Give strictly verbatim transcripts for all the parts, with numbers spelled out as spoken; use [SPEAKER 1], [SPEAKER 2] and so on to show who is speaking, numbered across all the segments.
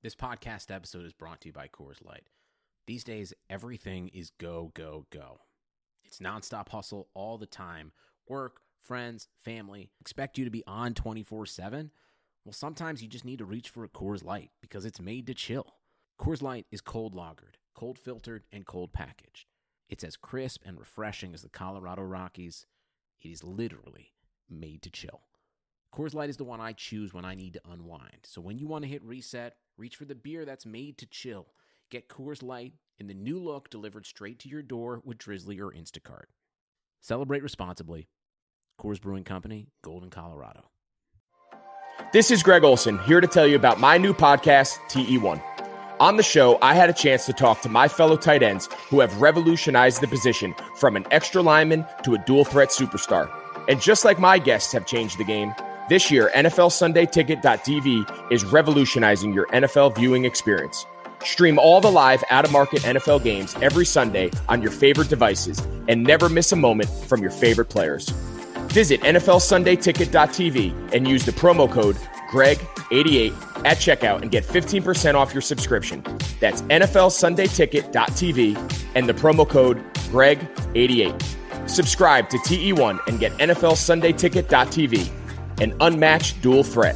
[SPEAKER 1] This podcast episode is brought to you by Coors Light. These days, everything is go, go, go. It's nonstop hustle all the time. Work, friends, family, expect you to be on twenty-four seven? Well, sometimes you just need to reach for a Coors Light because it's made to chill. Coors Light is cold lagered, cold filtered, and cold packaged. It's as crisp and refreshing as the Colorado Rockies. It is literally made to chill. Coors Light is the one I choose when I need to unwind. So when you want to hit reset, reach for the beer that's made to chill. Get Coors Light in the new look delivered straight to your door with Drizzly or Instacart. Celebrate responsibly. Coors Brewing Company, Golden, Colorado.
[SPEAKER 2] This is Greg Olson, here to tell you about my new podcast, T E one. On the show, I had a chance to talk to my fellow tight ends who have revolutionized the position from an extra lineman to a dual threat superstar. And just like my guests have changed the game, this year, N F L Sunday Ticket dot T V is revolutionizing your N F L viewing experience. Stream all the live, out-of-market N F L games every Sunday on your favorite devices and never miss a moment from your favorite players. Visit N F L Sunday Ticket dot T V and use the promo code Greg eighty-eight at checkout and get fifteen percent off your subscription. That's N F L Sunday Ticket dot T V and the promo code Greg eighty-eight. Subscribe to T E one and get N F L Sunday Ticket dot T V. An unmatched dual threat.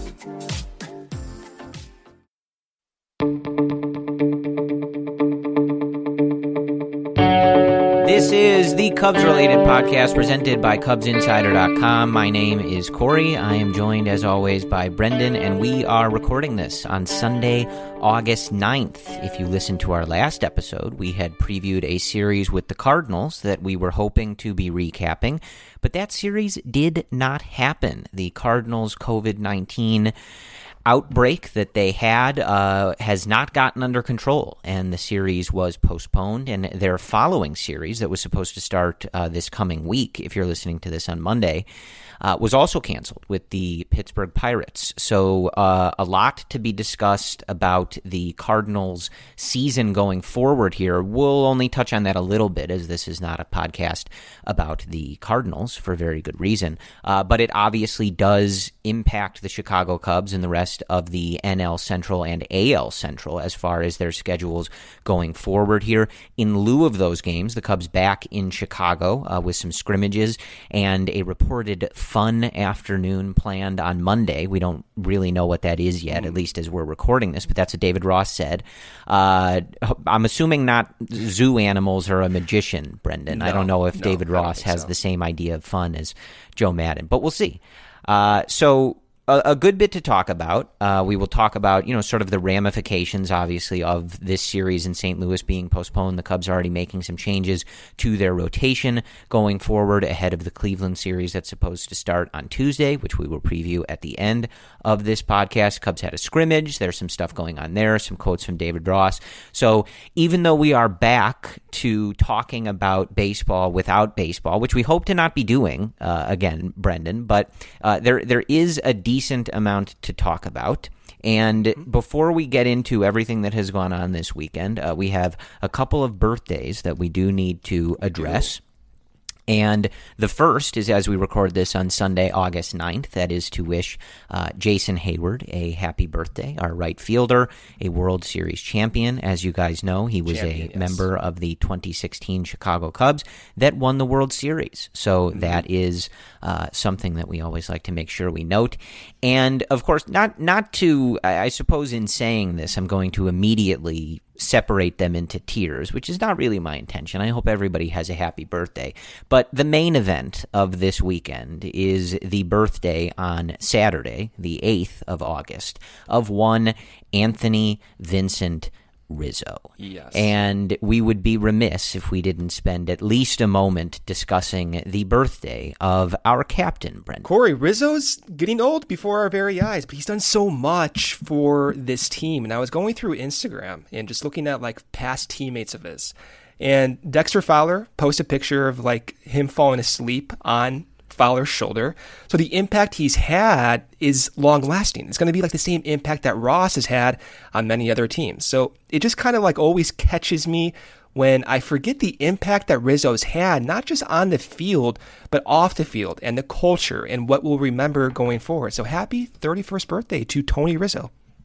[SPEAKER 3] This is the Cubs-related podcast presented by Cubs Insider dot com. My name is Corey. I am joined, as always, by Brendan, and we are recording this on Sunday, August ninth. If you listened to our last episode, we had previewed a series with the Cardinals that we were hoping to be recapping, but that series did not happen. The Cardinals' covid nineteen outbreak that they had uh, has not gotten under control, and the series was postponed, and their following series that was supposed to start uh, this coming week, if you're listening to this on Monday, uh, was also canceled with the Pittsburgh Pirates. So uh, a lot to be discussed about the Cardinals' season going forward here. We'll only touch on that a little bit, as this is not a podcast about the Cardinals for very good reason, uh, but it obviously does impact the Chicago Cubs and the rest of the N L Central and A L Central as far as their schedules going forward here. In lieu of those games, the Cubs back in Chicago uh, with some scrimmages and a reported fun afternoon planned on Monday. We don't really know what that is yet, at least as we're recording this, but that's what David Ross said. Uh, I'm assuming not zoo animals or a magician, Brendan.
[SPEAKER 4] No,
[SPEAKER 3] I don't know if
[SPEAKER 4] no,
[SPEAKER 3] David Ross has
[SPEAKER 4] so.
[SPEAKER 3] the same idea of fun as Joe Madden, but we'll see. Uh, so a, a good bit to talk about. Uh, we will talk about, you know, sort of the ramifications, obviously, of this series in Saint Louis being postponed. The Cubs are already making some changes to their rotation going forward ahead of the Cleveland series that's supposed to start on Tuesday, which we will preview at the end of this podcast. Cubs had a scrimmage. There's some stuff going on there, some quotes from David Ross. So even though we are back to talking about baseball without baseball, which we hope to not be doing uh, again, Brendan, but uh, there there is a decent amount to talk about. And before we get into everything that has gone on this weekend, uh, we have a couple of birthdays that we do need to address. And the first is, as we record this on Sunday, August ninth, that is to wish uh, Jason Hayward a happy birthday, our right fielder, a World Series champion. As you guys know, he was
[SPEAKER 4] Champion,
[SPEAKER 3] a
[SPEAKER 4] yes.
[SPEAKER 3] member of the twenty sixteen Chicago Cubs that won the World Series. So mm-hmm. that is uh, something that we always like to make sure we note. And, of course, not, not to, I suppose in saying this, I'm going to immediately separate them into tiers, which is not really my intention. I hope everybody has a happy birthday. But the main event of this weekend is the birthday on Saturday, the eighth of August, of one Anthony Vincent Rizzo.
[SPEAKER 4] Yes.
[SPEAKER 3] And we would be remiss if we didn't spend at least a moment discussing the birthday of our captain, Brendan.
[SPEAKER 4] Corey, Rizzo's getting old before our very eyes, but he's done so much for this team. And I was going through Instagram and just looking at like past teammates of his. And Dexter Fowler posted a picture of like him falling asleep on Fowler's shoulder. So the impact he's had is long lasting. It's going to be like the same impact that Ross has had on many other teams. So it just kind of like always catches me when I forget the impact that Rizzo's had, not just on the field, but off the field and the culture and what we'll remember going forward. So happy thirty-first birthday to Tony Rizzo.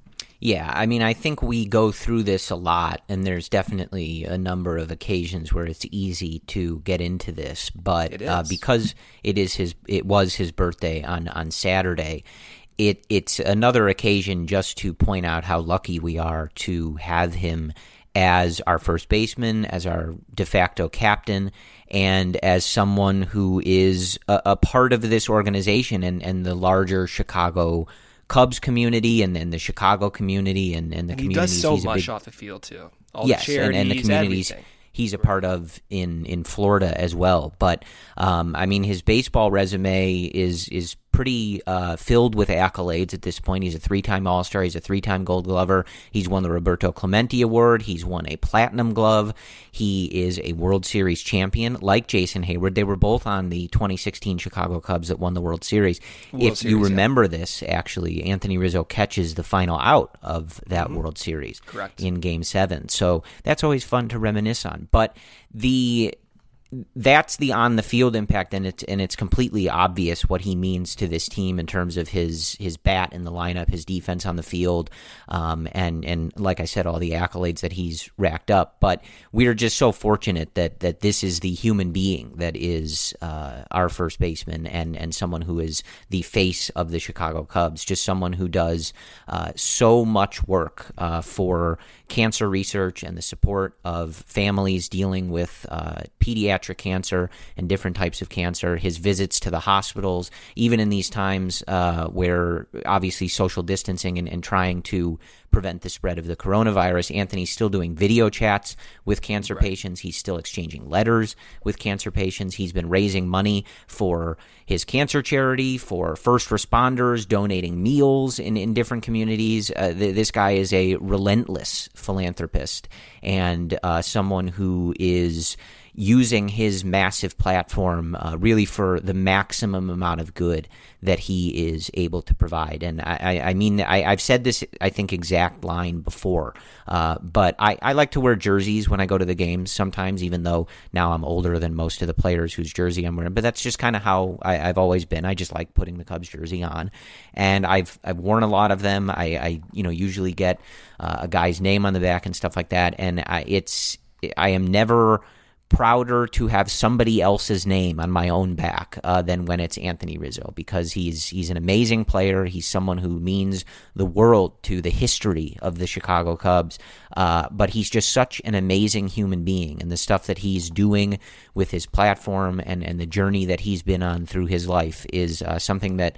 [SPEAKER 3] Yeah, I mean, I think we go through this a lot, and there's definitely a number of occasions where it's easy to get into this. But
[SPEAKER 4] It is.
[SPEAKER 3] Uh, because it is his, it was his birthday on, on Saturday, it it's another occasion just to point out how lucky we are to have him as our first baseman, as our de facto captain, and as someone who is a, a part of this organization and, and the larger Chicago Cubs community and, and the Chicago community and, and the
[SPEAKER 4] And he
[SPEAKER 3] communities.
[SPEAKER 4] does so
[SPEAKER 3] he's a
[SPEAKER 4] much
[SPEAKER 3] big,
[SPEAKER 4] off the field, too. All
[SPEAKER 3] yes,
[SPEAKER 4] the charities,
[SPEAKER 3] and, and the communities
[SPEAKER 4] everything.
[SPEAKER 3] he's a part of in, in Florida as well. But, um, I mean, his baseball resume is is pretty uh, filled with accolades at this point. He's a three-time All-Star. He's a three-time Gold Glover. He's won the Roberto Clemente Award. He's won a Platinum Glove. He is a World Series champion, like Jason Hayward. They were both on the twenty sixteen Chicago Cubs that won the World Series.
[SPEAKER 4] World
[SPEAKER 3] if
[SPEAKER 4] Series,
[SPEAKER 3] you
[SPEAKER 4] yeah.
[SPEAKER 3] remember this, actually, Anthony Rizzo catches the final out of that
[SPEAKER 4] Mm-hmm.
[SPEAKER 3] World Series
[SPEAKER 4] Correct.
[SPEAKER 3] in Game seven. So that's always fun to reminisce on. But the... That's the on-the-field impact, and it's and it's completely obvious what he means to this team in terms of his his bat in the lineup, his defense on the field, um, and and like I said, all the accolades that he's racked up. But we're just so fortunate that that this is the human being that is uh, our first baseman and and someone who is the face of the Chicago Cubs, just someone who does uh, so much work uh, for cancer research and the support of families dealing with uh, pediatric cancer and different types of cancer, his visits to the hospitals, even in these times uh, where obviously social distancing and, and trying to prevent the spread of the coronavirus. Anthony's still doing video chats with cancer
[SPEAKER 4] Right.
[SPEAKER 3] patients. He's still exchanging letters with cancer patients. He's been raising money for his cancer charity, for first responders, donating meals in, in different communities. Uh, th- this guy is a relentless philanthropist and uh, someone who is using his massive platform uh, really for the maximum amount of good that he is able to provide. And I, I, I mean, I, I've said this, I think, exact line before, uh, but I, I like to wear jerseys when I go to the games sometimes, even though now I'm older than most of the players whose jersey I'm wearing. But that's just kind of how I, I've always been. I just like putting the Cubs jersey on, and I've I've worn a lot of them. I, I you know usually get uh, a guy's name on the back and stuff like that, and I, it's I am never prouder to have somebody else's name on my own back uh, than when it's Anthony Rizzo, because he's he's an amazing player. He's someone who means the world to the history of the Chicago Cubs, uh, but he's just such an amazing human being, and the stuff that he's doing with his platform and, and the journey that he's been on through his life is uh, something that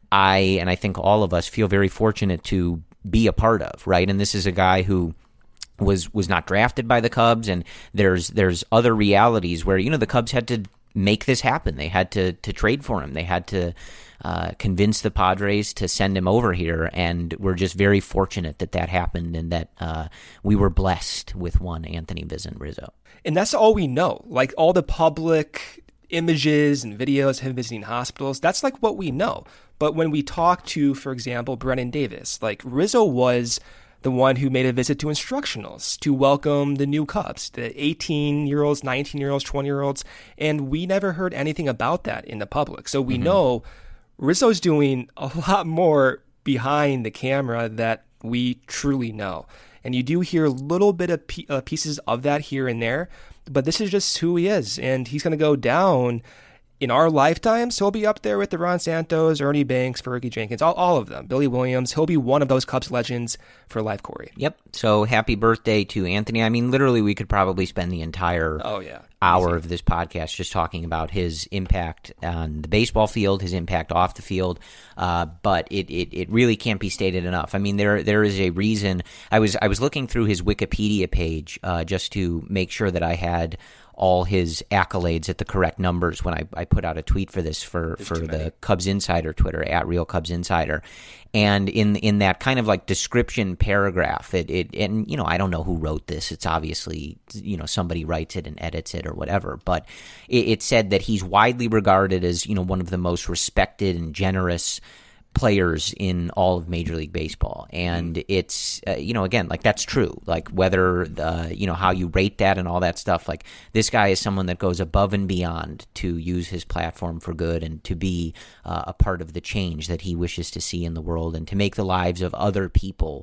[SPEAKER 3] I, and I think all of us, feel very fortunate to be a part of, right? And this is a guy who was was not drafted by the Cubs, and there's there's other realities where, you know, the Cubs had to make this happen. They had to to trade for him. They had to uh, convince the Padres to send him over here, and we're just very fortunate that that happened and that uh, we were blessed with one Anthony Vincent Rizzo.
[SPEAKER 4] And that's all we know. Like, all the public images and videos of him visiting hospitals, that's like what we know. But when we talk to, for example, Brennan Davis, like, Rizzo was the one who made a visit to instructionals to welcome the new Cubs, the eighteen-year-olds, nineteen-year-olds, twenty-year-olds, and we never heard anything about that in the public. So we mm-hmm. know Rizzo's doing a lot more behind the camera that we truly know. And you do hear a little bit of p- uh, pieces of that here and there, but this is just who he is, and he's going to go down in our lifetimes. He'll be up there with the Ron Santos, Ernie Banks, Fergie Jenkins, all, all of them, Billy Williams. He'll be one of those Cubs legends for life, Corey.
[SPEAKER 3] Yep. So happy birthday to Anthony. I mean, literally, we could probably spend the entire
[SPEAKER 4] oh, yeah.
[SPEAKER 3] hour
[SPEAKER 4] Easy.
[SPEAKER 3] of this podcast just talking about his impact on the baseball field, his impact off the field. Uh, but it, it, it really can't be stated enough. I mean, there there is a reason. I was I was looking through his Wikipedia page uh, just to make sure that I had all his accolades at the correct numbers when I, I put out a tweet for this for, for the Cubs Insider Twitter, at Real Cubs Insider. And in in that kind of like description paragraph, it, it and, you know, I don't know who wrote this. It's obviously, you know, somebody writes it and edits it or whatever. But it, it said that he's widely regarded as, you know, one of the most respected and generous players in all of Major League Baseball. And it's, uh, you know, again, like, that's true. Like, whether, the, you know, how you rate that and all that stuff, like, this guy is someone that goes above and beyond to use his platform for good and to be uh, a part of the change that he wishes to see in the world and to make the lives of other people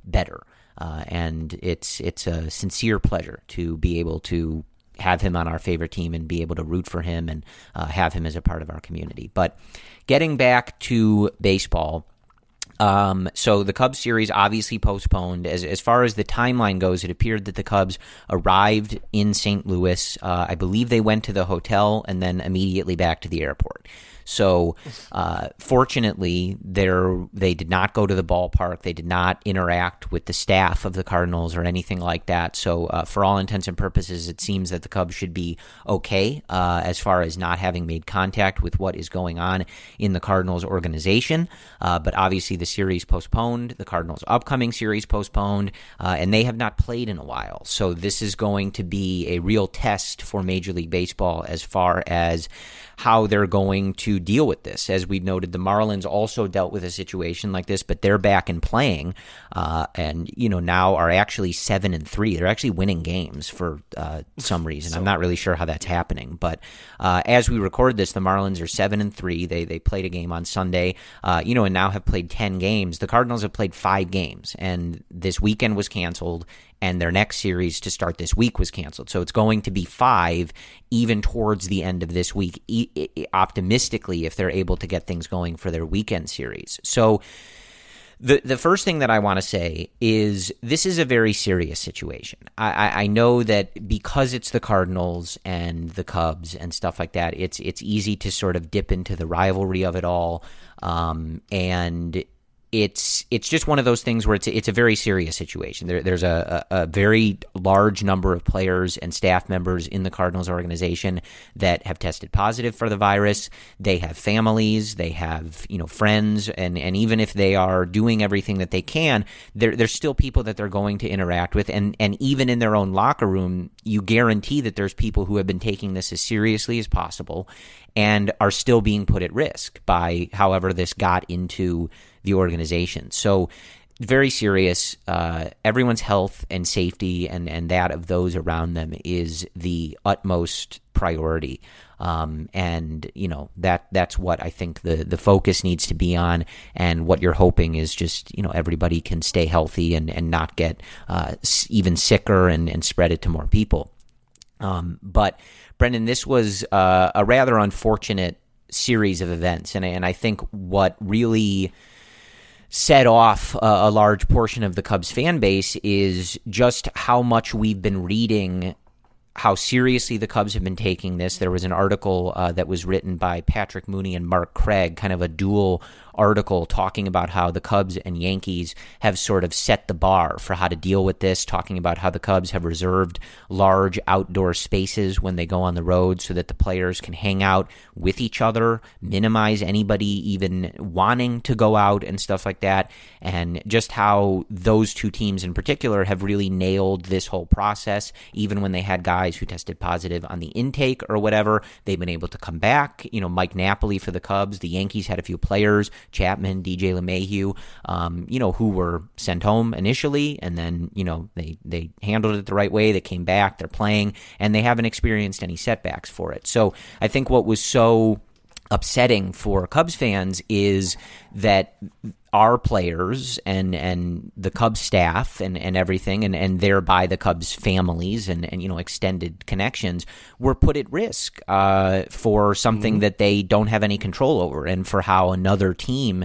[SPEAKER 3] better. Uh, and it's it's a sincere pleasure to be able to have him on our favorite team and be able to root for him and uh, have him as a part of our community. But getting back to baseball, um, so the Cubs series obviously postponed. As as far as the timeline goes, it appeared that the Cubs arrived in Saint Louis. Uh, I believe they went to the hotel and then immediately back to the airport. So, uh, fortunately, they did not go to the ballpark. They did not interact with the staff of the Cardinals or anything like that. So, uh, for all intents and purposes, it seems that the Cubs should be okay uh, as far as not having made contact with what is going on in the Cardinals organization. Uh, but obviously, the series postponed, the Cardinals' upcoming series postponed, uh, and they have not played in a while. So, this is going to be a real test for Major League Baseball as far as how they're going to deal with this. As we've noted, the Marlins also dealt with a situation like this, but they're back and playing, uh, and you know now are actually seven and three. They're actually winning games for uh, some reason. So, I'm not really sure how that's happening, but uh, as we record this, the Marlins are seven and three. They they played a game on Sunday, uh, you know, and now have played ten games. The Cardinals have played five games, and this weekend was canceled. And their next series to start this week was canceled. So it's going to be five even towards the end of this week, e- e- optimistically, if they're able to get things going for their weekend series. So the the first thing that I want to say is this is a very serious situation. I, I, I know that because it's the Cardinals and the Cubs and stuff like that, it's it's easy to sort of dip into the rivalry of it all. Um, and It's it's just one of those things where it's it's a very serious situation. There, there's a, a, a very large number of players and staff members in the Cardinals organization that have tested positive for the virus. They have families, they have you know friends, and, and even if they are doing everything that they can, there, there's still people that they're going to interact with. And, and even in their own locker room, you guarantee that there's people who have been taking this as seriously as possible and are still being put at risk by however this got into the organization. So very serious. Uh, everyone's health and safety and, and that of those around them is the utmost priority. Um, and, you know, that that's what I think the, the focus needs to be on. And what you're hoping is just, you know, everybody can stay healthy and, and not get uh, even sicker and, and spread it to more people. Um, but, Brendan, this was uh, a rather unfortunate series of events. And, and I think what really set off a, a large portion of the Cubs fan base is just how much we've been reading how seriously the Cubs have been taking this. There was an article uh, that was written by Patrick Mooney and Mark Craig, kind of a dual article talking about how the Cubs and Yankees have sort of set the bar for how to deal with this, talking about how the Cubs have reserved large outdoor spaces when they go on the road so that the players can hang out with each other, minimize anybody even wanting to go out and stuff like that, and just how those two teams in particular have really nailed this whole process. Even when they had guys who tested positive on the intake or whatever, they've been able to come back. You know, Mike Napoli for the Cubs, the Yankees had a few players, Chapman, D J LeMahieu, um, you know, who were sent home initially, and then, you know, they, they handled it the right way. They came back, they're playing, and they haven't experienced any setbacks for it. So I think what was so upsetting for Cubs fans is that our players and, and the Cubs staff and, and everything, and, and thereby the Cubs families and, and you know extended connections were put at risk uh, for something mm-hmm. that they don't have any control over, and for how another team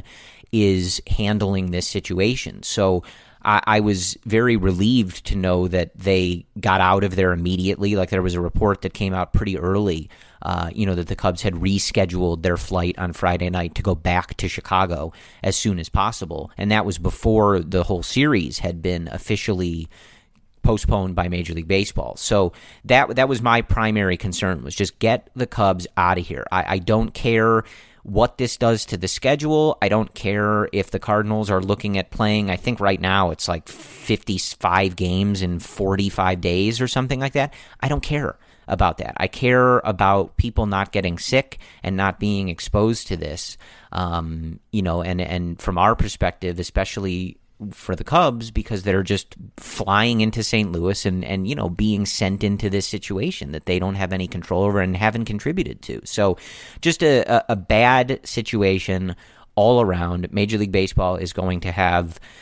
[SPEAKER 3] is handling this situation. So I, I was very relieved to know that they got out of there immediately. Like, there was a report that came out pretty early, uh, you know, that the Cubs had rescheduled their flight on Friday night to go back to Chicago as soon as possible. And that was before the whole series had been officially postponed by Major League Baseball. So that that was my primary concern, was just get the Cubs out of here. I, I don't care what this does to the schedule. I don't care if the Cardinals are looking at playing, I think right now it's like fifty-five games in forty-five days or something like that. I don't care about that. I care about people not getting sick and not being exposed to this. Um, you know, and, and from our perspective, especially for the Cubs, because they're just flying into Saint Louis and, and, you know, being sent into this situation that they don't have any control over and haven't contributed to. So just a, a, a bad situation all around. Major League Baseball is going to have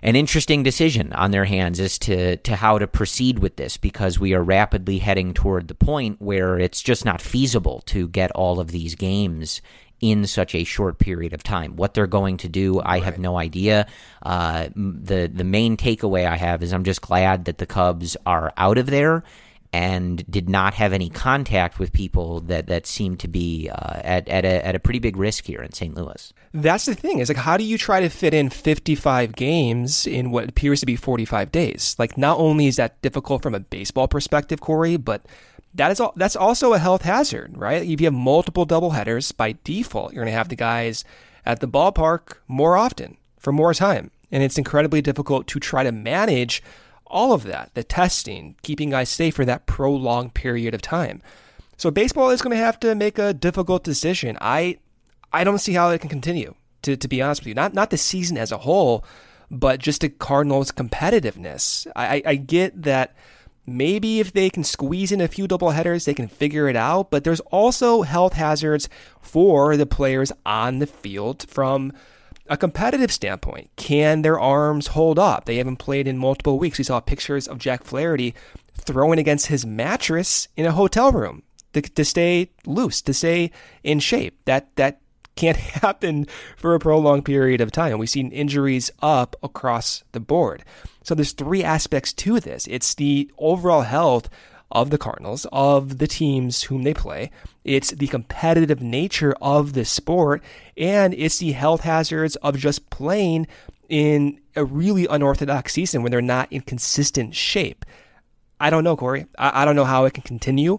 [SPEAKER 3] an interesting decision on their hands as to, to how to proceed with this, because we are rapidly heading toward the point where it's just not feasible to get all of these games in such a short period of time. What they're going to do, I right. have no idea. Uh, the the main takeaway I have is I'm just glad that the Cubs are out of there and did not have any contact with people that, that seemed to be uh, at at a, at a pretty big risk here in Saint Louis.
[SPEAKER 4] That's the thing. Is like, how do you try to fit in fifty-five games in what appears to be forty-five days? Like, not only is that difficult from a baseball perspective, Corey, but that is all, that's also a health hazard, right? If you have multiple doubleheaders, by default, you're going to have the guys at the ballpark more often for more time. And it's incredibly difficult to try to manage all of that, the testing, keeping guys safe for that prolonged period of time. So baseball is going to have to make a difficult decision. I I don't see how it can continue, to, to be honest with you. Not not the season as a whole, but just the Cardinals' competitiveness. I, I, I get that maybe if they can squeeze in a few doubleheaders, they can figure it out. But there's also health hazards for the players on the field from a competitive standpoint. Can their arms hold up? They haven't played in multiple weeks. We saw pictures of Jack Flaherty throwing against his mattress in a hotel room to, to stay loose, to stay in shape. That that can't happen for a prolonged period of time. We've seen injuries up across the board. So there's three aspects to this. It's the overall health of the Cardinals, of the teams whom they play. It's the competitive nature of the sport, and it's the health hazards of just playing in a really unorthodox season when they're not in consistent shape. I don't know, Corey. I, I don't know how it can continue.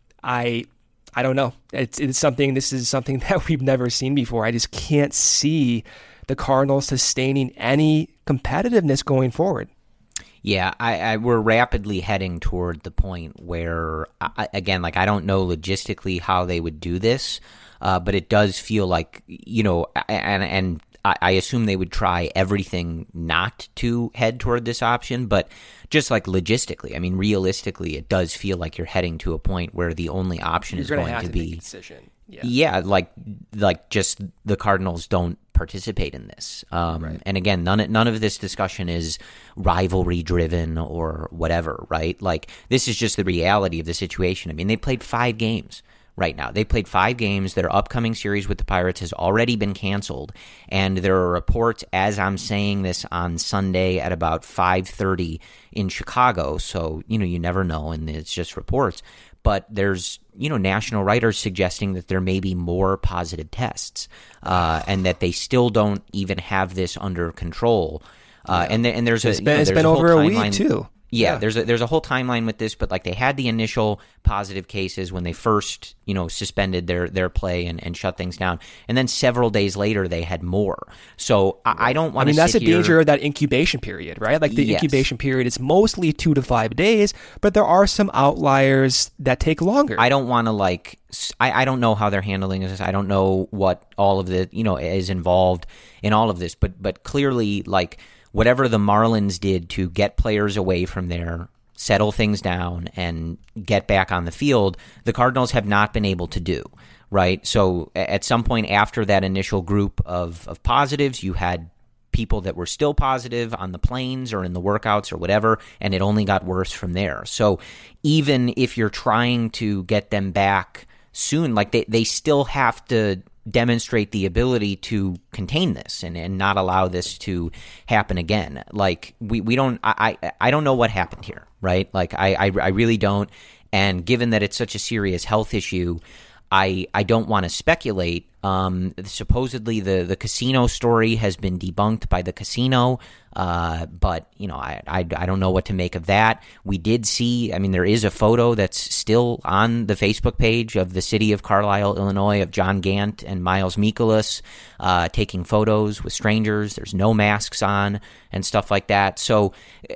[SPEAKER 4] I I don't know. It's it's something. This is something that we've never seen before. I just can't see the Cardinals sustaining any competitiveness going forward.
[SPEAKER 3] Yeah, I, I we're rapidly heading toward the point where, I, again, like I don't know logistically how they would do this, uh, but it does feel like, you know, and and I, I assume they would try everything not to head toward this option, but just like logistically, I mean, realistically, it does feel like you're heading to a point where the only option
[SPEAKER 4] you're
[SPEAKER 3] is going
[SPEAKER 4] have
[SPEAKER 3] to,
[SPEAKER 4] to
[SPEAKER 3] be
[SPEAKER 4] make a decision. Yeah.
[SPEAKER 3] yeah, like like just the Cardinals don't participate in this. Um,
[SPEAKER 4] right.
[SPEAKER 3] And again, none none of this discussion is rivalry driven or whatever, right? Like this is just the reality of the situation. I mean, they played five games right now. They played five games. Their upcoming series with the Pirates has already been canceled, and there are reports as I'm saying this on Sunday at about five thirty in Chicago. So you know, you never know, and it's just reports. But there's, you know, national writers suggesting that there may be more positive tests uh, and that they still don't even have this under control. Uh, yeah. And th- and there's a
[SPEAKER 4] it's been,
[SPEAKER 3] you know,
[SPEAKER 4] it's been
[SPEAKER 3] a
[SPEAKER 4] over a
[SPEAKER 3] timeline.
[SPEAKER 4] week too.
[SPEAKER 3] Yeah,
[SPEAKER 4] yeah,
[SPEAKER 3] there's a, there's a whole timeline with this, but like they had the initial positive cases when they first, you know, suspended their, their play and, and shut things down, and then several days later they had more. So I, I don't want to.
[SPEAKER 4] I mean, that's the
[SPEAKER 3] here.
[SPEAKER 4] danger of that incubation period, right? Like the
[SPEAKER 3] yes.
[SPEAKER 4] incubation period is mostly two to five days, but there are some outliers that take longer.
[SPEAKER 3] I don't want to like. I, I don't know how they're handling this. I don't know what all of the you know is involved in all of this, but but clearly like. Whatever the Marlins did to get players away from there, settle things down, and get back on the field, the Cardinals have not been able to do, right? So at some point after that initial group of, of positives, you had people that were still positive on the planes or in the workouts or whatever, and it only got worse from there. So even if you're trying to get them back soon, like they, they still have to demonstrate the ability to contain this and, and not allow this to happen again. Like we, we don't, I, I, I don't know what happened here, right? Like I, I, I really don't. And given that it's such a serious health issue, I, I don't want to speculate. Um, supposedly the, the casino story has been debunked by the casino. Uh, but you know, I, I, I don't know what to make of that. We did see, I mean, there is a photo that's still on the Facebook page of the city of Carlisle, Illinois, of John Gant and Miles Mikolas, uh, taking photos with strangers. There's no masks on and stuff like that. So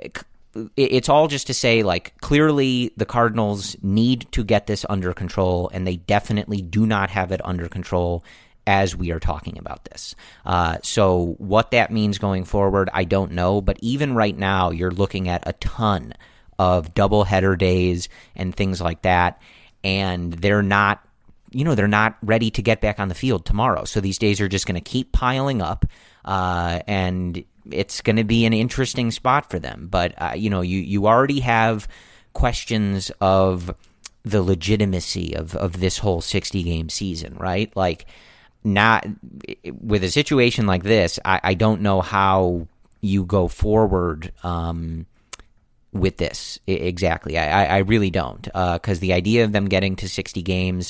[SPEAKER 3] it's all just to say, like, clearly the Cardinals need to get this under control, and they definitely do not have it under control as we are talking about this. Uh, so what that means going forward, I don't know. But even right now, you're looking at a ton of doubleheader days and things like that, and they're not, you know, they're not ready to get back on the field tomorrow. So these days are just going to keep piling up, uh, and it's going to be an interesting spot for them. But, uh, you know, you, you already have questions of the legitimacy of, of this whole sixty-game season, right? Like, not with a situation like this, I, I don't know how you go forward um, with this exactly. I, I really don't, because uh, the idea of them getting to sixty games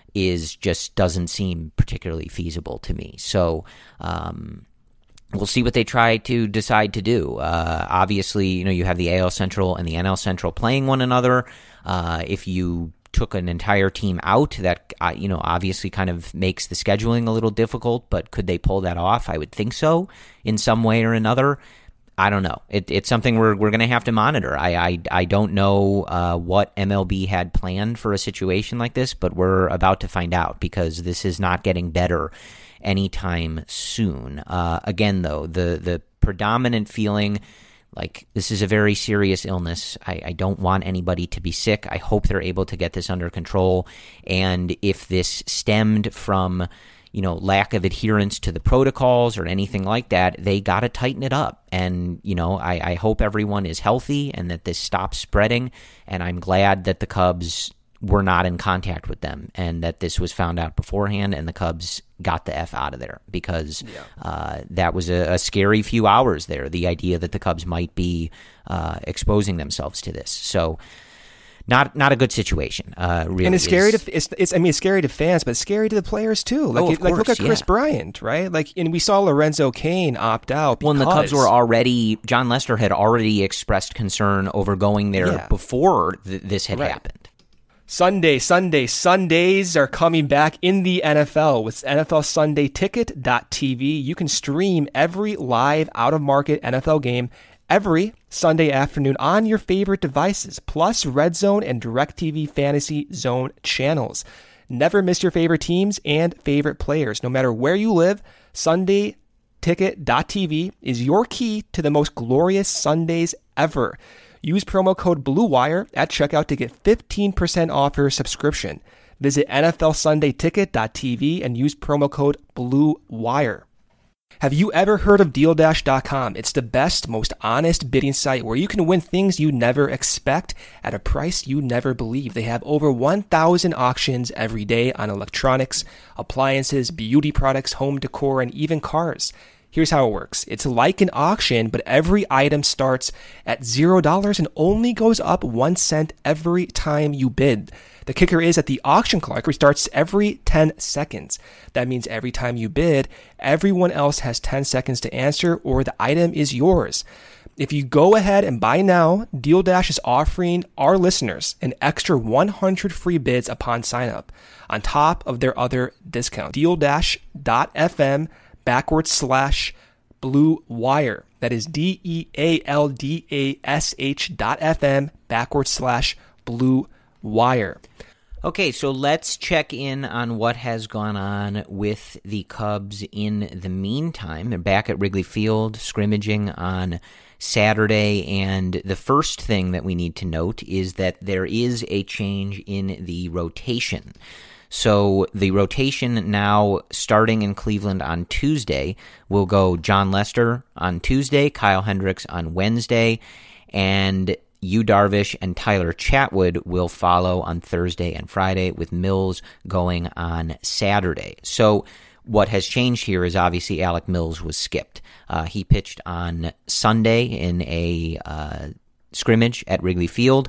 [SPEAKER 3] is just doesn't seem particularly feasible to me. So um, we'll see what they try to decide to do. Uh, obviously, you know, you have the A L Central and the N L Central playing one another. Uh, if you took an entire team out, that, uh, you know, obviously kind of makes the scheduling a little difficult, but could they pull that off? I would think so in some way or another. I don't know. It, it's something we're we're going to have to monitor. I I, I don't know uh, what M L B had planned for a situation like this, but we're about to find out, because this is not getting better anytime soon. Uh, again, though, the the predominant feeling, like, this is a very serious illness. I, I don't want anybody to be sick. I hope they're able to get this under control. And if this stemmed from, you know, lack of adherence to the protocols or anything like that, they got to tighten it up. And, you know, I, I hope everyone is healthy and that this stops spreading. And I'm glad that the Cubs were not in contact with them and that this was found out beforehand and the Cubs got the F out of there, because yeah. uh, that was a, a scary few hours there, the idea that the Cubs might be uh, exposing themselves to this. So not not a good situation. Uh, really,
[SPEAKER 4] and it's scary
[SPEAKER 3] is.
[SPEAKER 4] to it's, it's I mean it's scary to fans, but it's scary to the players too. Like,
[SPEAKER 3] oh,
[SPEAKER 4] it,
[SPEAKER 3] of
[SPEAKER 4] like
[SPEAKER 3] course,
[SPEAKER 4] look at Chris
[SPEAKER 3] yeah.
[SPEAKER 4] Bryant, right? Like, and we saw Lorenzo Cain opt out.
[SPEAKER 3] Well, and the Cubs
[SPEAKER 4] because-
[SPEAKER 3] were already John Lester had already expressed concern over going there
[SPEAKER 4] Yeah.
[SPEAKER 3] before th- this had
[SPEAKER 4] Right.
[SPEAKER 3] happened.
[SPEAKER 4] Sunday, Sunday, Sundays are coming back in the N F L with N F L Sunday Ticket dot T V. You can stream every live out-of-market N F L game every Sunday afternoon on your favorite devices, plus Red Zone and DirecTV Fantasy Zone channels. Never miss your favorite teams and favorite players. No matter where you live, Sunday Ticket dot T V is your key to the most glorious Sundays ever. Use promo code BLUEWIRE at checkout to get fifteen percent off your subscription. Visit N F L Sunday Ticket dot T V and use promo code BLUEWIRE. Have you ever heard of Deal Dash dot com? It's the best, most honest bidding site where you can win things you never expect at a price you never believe. They have over one thousand auctions every day on electronics, appliances, beauty products, home decor, and even cars. Here's how it works. It's like an auction, but every item starts at zero dollars and only goes up one cent every time you bid. The kicker is that the auction clock restarts every ten seconds. That means every time you bid, everyone else has ten seconds to answer or the item is yours. If you go ahead and buy now, Deal Dash is offering our listeners an extra one hundred free bids upon sign up, on top of their other discounts. Deal Dash dot F M backward slash blue wire. That is D E A L D A S H dot F M backward slash blue wire.
[SPEAKER 3] Okay, so let's check in on what has gone on with the Cubs in the meantime. They're back at Wrigley Field, scrimmaging on Saturday, and the first thing that we need to note is that there is a change in the rotation. So the rotation now, starting in Cleveland on Tuesday, will go John Lester on Tuesday, Kyle Hendricks on Wednesday, and Yu Darvish and Tyler Chatwood will follow on Thursday and Friday, with Mills going on Saturday. So what has changed here is obviously Alec Mills was skipped. Uh, he pitched on Sunday in a uh, scrimmage at Wrigley Field,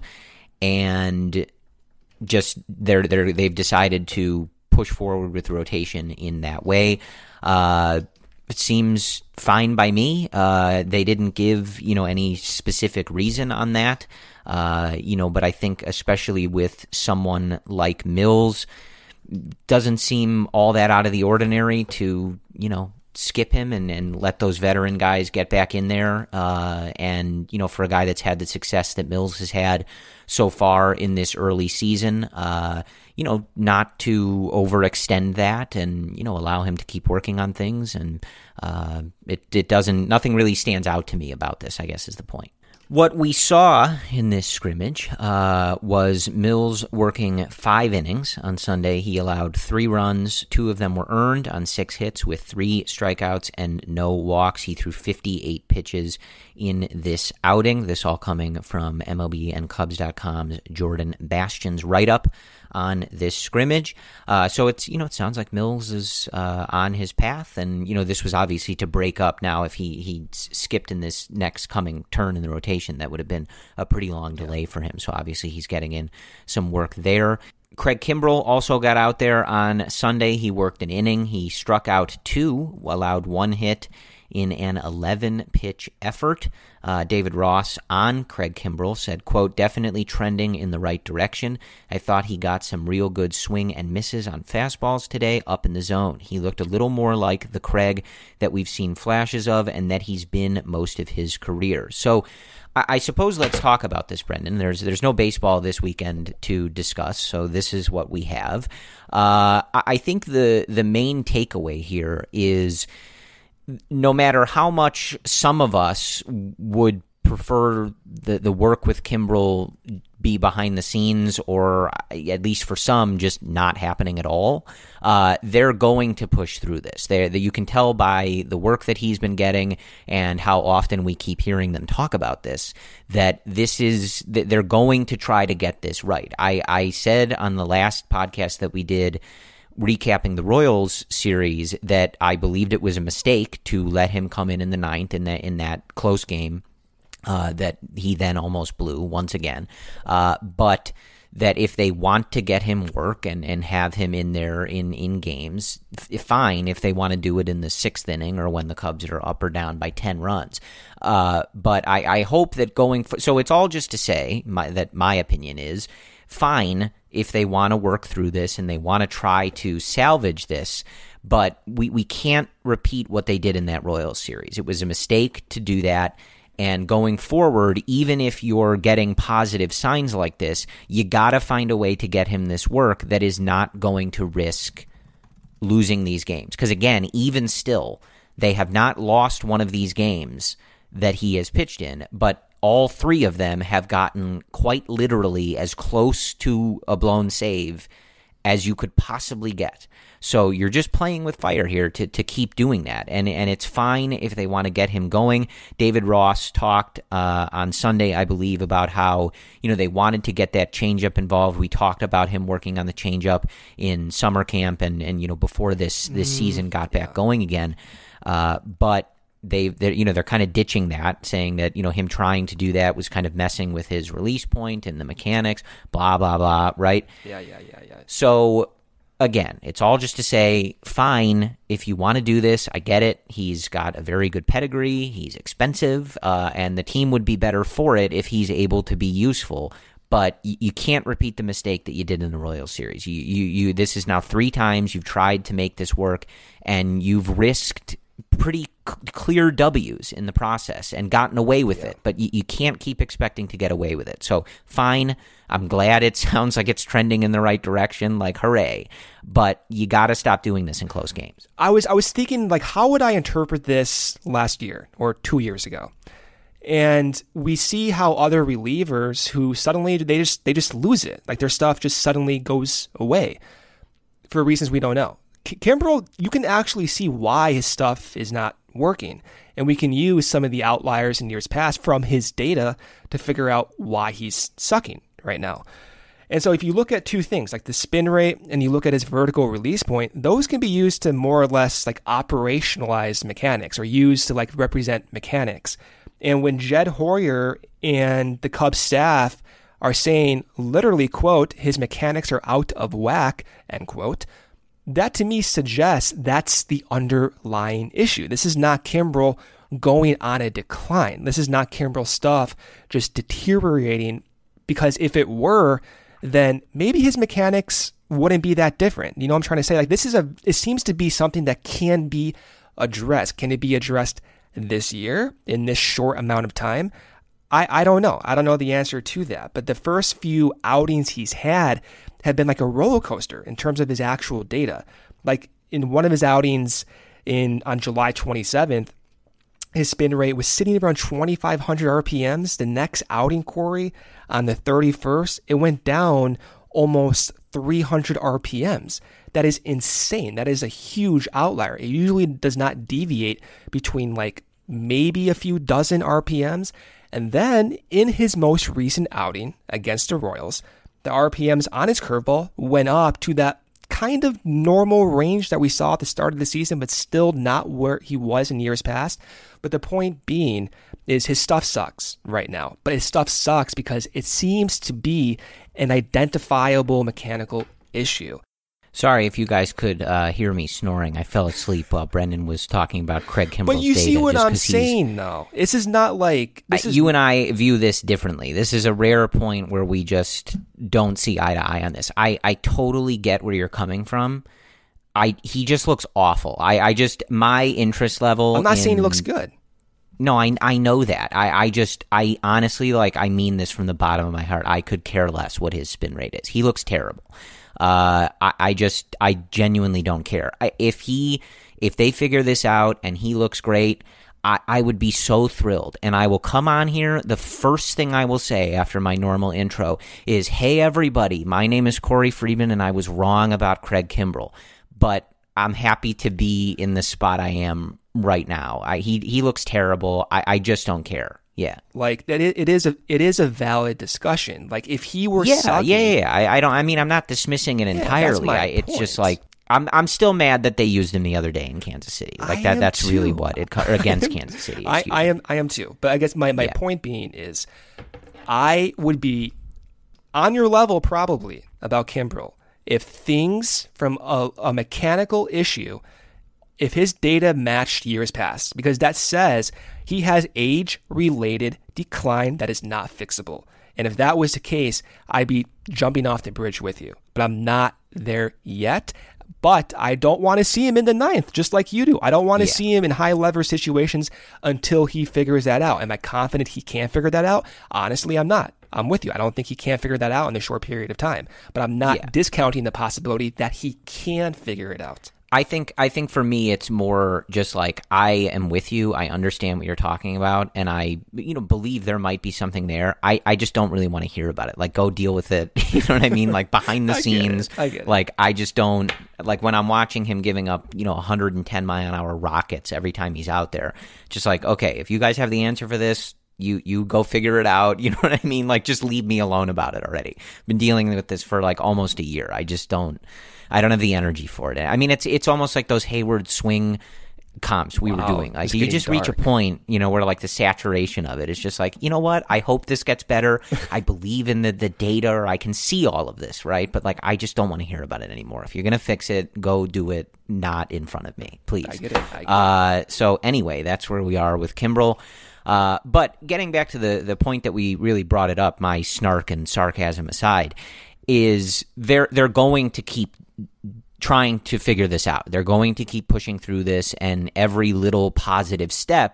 [SPEAKER 3] and just they're, they're, they've decided to push forward with rotation in that way. Uh, it seems fine by me. Uh, they didn't give, you know, any specific reason on that, uh, you know, but I think especially with someone like Mills, doesn't seem all that out of the ordinary to, you know, skip him and, and let those veteran guys get back in there. Uh, and, you know, for a guy that's had the success that Mills has had so far in this early season, uh, you know, not to overextend that and, you know, allow him to keep working on things. And uh, it, it doesn't, nothing really stands out to me about this, I guess is the point. What we saw in this scrimmage uh, was Mills working five innings on Sunday. He allowed three runs. Two of them were earned on six hits with three strikeouts and no walks. He threw fifty-eight pitches in this outing. This all coming from M L B and Cubs dot com's Jordan Bastian's write-up on this scrimmage. Uh, so it's, you know, it sounds like Mills is uh, on his path. And, you know, this was obviously to break up now. If he, he skipped in this next coming turn in the rotation, that would have been a pretty long delay for him. So obviously he's getting in some work there. Craig Kimbrel also got out there on Sunday. He worked an inning. He struck out two, allowed one hit in an eleven-pitch effort. Uh, David Ross on Craig Kimbrel said, quote, definitely trending in the right direction. I thought he got some real good swing and misses on fastballs today up in the zone. He looked a little more like the Craig that we've seen flashes of and that he's been most of his career. So I, I suppose let's talk about this, Brendan. There's there's no baseball this weekend to discuss, so this is what we have. Uh, I, I think the the main takeaway here is no matter how much some of us would prefer the, the work with Kimbrel be behind the scenes, or at least for some, just not happening at all, uh, they're going to push through this. They, you can tell by the work that he's been getting and how often we keep hearing them talk about this, that this is, that they're going to try to get this right. I, I said on the last podcast that we did, recapping the Royals series, that I believed it was a mistake to let him come in in the ninth in that in that close game uh, that he then almost blew once again. Uh, but that if they want to get him work and, and have him in there in, in games, f- fine if they want to do it in the sixth inning or when the Cubs are up or down by ten runs. Uh, but I, I hope that going for, so it's all just to say my, that my opinion is fine if they want to work through this and they want to try to salvage this, but we, we can't repeat what they did in that Royals series. It was a mistake to do that, and going forward, even if you're getting positive signs like this, you got to find a way to get him this work that is not going to risk losing these games. Because again, even still, they have not lost one of these games that he has pitched in, but all three of them have gotten quite literally as close to a blown save as you could possibly get. So you're just playing with fire here to, to keep doing that. And and it's fine if they want to get him going. David Ross talked uh, on Sunday, I believe, about how, you know, they wanted to get that changeup involved. We talked about him working on the changeup in summer camp and, and you know, before this, this mm, season got back yeah. going again. Uh, but They, they're, you know, they're kind of ditching that, saying that, you know, him trying to do that was kind of messing with his release point and the mechanics, blah, blah, blah, right?
[SPEAKER 4] Yeah, yeah, yeah, yeah.
[SPEAKER 3] So, again, it's all just to say, fine, if you want to do this, I get it. He's got a very good pedigree. He's expensive, uh, and the team would be better for it if he's able to be useful. But you, you can't repeat the mistake that you did in the Royals series. You, you, you. This is now three times you've tried to make this work, and you've risked pretty c- clear W's in the process and gotten away with yeah. it, but you, you can't keep expecting to get away with it. So fine, I'm glad it sounds like it's trending in the right direction, like hooray, but you got to stop doing this in close games.
[SPEAKER 4] I was I was thinking, like, how would I interpret this last year or two years ago? And we see how other relievers who suddenly they just they just lose it, like their stuff just suddenly goes away for reasons we don't know. Kimbrel, you can actually see why his stuff is not working. And we can use some of the outliers in years past from his data to figure out why he's sucking right now. And so if you look at two things, like the spin rate and you look at his vertical release point, those can be used to more or less like operationalize mechanics or used to like represent mechanics. And when Jed Hoyer and the Cubs staff are saying literally, quote, his mechanics are out of whack, end quote, that to me suggests that's the underlying issue. This is not Kimbrel going on a decline. This is not Kimbrel stuff just deteriorating, because if it were, then maybe his mechanics wouldn't be that different. You know what I'm trying to say? Like, this is a, it seems to be something that can be addressed. Can it be addressed this year in this short amount of time? I, I don't know. I don't know the answer to that. But the first few outings he's had have been like a roller coaster in terms of his actual data. Like in one of his outings in on July twenty-seventh, his spin rate was sitting around twenty-five hundred R P Ms. The next outing, Corey, on the thirty-first, it went down almost three hundred R P Ms. That is insane. That is a huge outlier. It usually does not deviate between like maybe a few dozen R P Ms. And then in his most recent outing against the Royals, the R P Ms on his curveball went up to that kind of normal range that we saw at the start of the season, but still not where he was in years past. But the point being is his stuff sucks right now. But his stuff sucks because it seems to be an identifiable mechanical issue.
[SPEAKER 3] Sorry if you guys could uh, hear me snoring. I fell asleep while Brendan was talking about Craig Kimbrel's data.
[SPEAKER 4] But you see what I'm
[SPEAKER 3] he's...
[SPEAKER 4] saying, though. This is not like... This
[SPEAKER 3] I,
[SPEAKER 4] is...
[SPEAKER 3] You and I view this differently. This is a rare point where we just don't see eye to eye on this. I, I totally get where you're coming from. I He just looks awful. I, I just... My interest level...
[SPEAKER 4] I'm not
[SPEAKER 3] in...
[SPEAKER 4] saying he looks good.
[SPEAKER 3] No, I I know that. I, I just, I honestly, like, I mean this from the bottom of my heart. I could care less what his spin rate is. He looks terrible. Uh, I, I just, I genuinely don't care. I, if he, if they figure this out and he looks great, I, I would be so thrilled. And I will come on here. The first thing I will say after my normal intro is, hey, everybody, my name is Corey Friedman and I was wrong about Craig Kimbrel. But I'm happy to be in the spot I am right now. I, he he looks terrible. I, I just don't care. Yeah,
[SPEAKER 4] like that. It, it is a it is a valid discussion. Like if he were
[SPEAKER 3] yeah
[SPEAKER 4] sucking,
[SPEAKER 3] yeah yeah. I, I don't. I mean, I'm not dismissing it
[SPEAKER 4] yeah,
[SPEAKER 3] entirely. I, it's
[SPEAKER 4] point.
[SPEAKER 3] just like I'm I'm still mad that they used him the other day in Kansas City. Like
[SPEAKER 4] I
[SPEAKER 3] that. That's
[SPEAKER 4] too.
[SPEAKER 3] really what it or against Kansas City.
[SPEAKER 4] I, I am I am too. But I guess my my
[SPEAKER 3] yeah.
[SPEAKER 4] point being is, I would be on your level probably about Kimbrel if things from a, a mechanical issue, if his data matched years past, because that says he has age-related decline that is not fixable. And if that was the case, I'd be jumping off the bridge with you. But I'm not there yet. But I don't want to see him in the ninth, just like you do. I don't want to yeah. see him in high lever situations until he figures that out. Am I confident he can figure that out? Honestly, I'm not. I'm with you. I don't think he can figure that out in a short period of time. But I'm not yeah. discounting the possibility that he can figure it out.
[SPEAKER 3] I think I think for me it's more just like I am with you. I understand what you're talking about, and I you know believe there might be something there. I, I just don't really want to hear about it. Like, go deal with it. You know what I mean? Like behind the
[SPEAKER 4] I
[SPEAKER 3] scenes.
[SPEAKER 4] Get it. I get it.
[SPEAKER 3] Like I just don't like when I'm watching him giving up you know one hundred ten mile an hour rockets every time he's out there. Just like, okay, if you guys have the answer for this, you you go figure it out. You know what I mean? Like, just leave me alone about it already. I've been dealing with this for like almost a year. I just don't. I don't have the energy for it. I mean, it's it's almost like those Hayward swing comps we
[SPEAKER 4] wow,
[SPEAKER 3] were doing. Like,
[SPEAKER 4] it's
[SPEAKER 3] you just
[SPEAKER 4] dark.
[SPEAKER 3] reach a point, you know, where like the saturation of it is just like, you know what? I hope this gets better. I believe in the, the data, or I can see all of this, right? But like, I just don't want to hear about it anymore. If you're going to fix it, go do it, not in front of me, please.
[SPEAKER 4] I get it. I get
[SPEAKER 3] uh, it. So anyway, that's where we are with Kimbrel. Uh, but getting back to the, the point that we really brought it up, my snark and sarcasm aside, is they're they're going to keep trying to figure this out. They're going to keep pushing through this, and every little positive step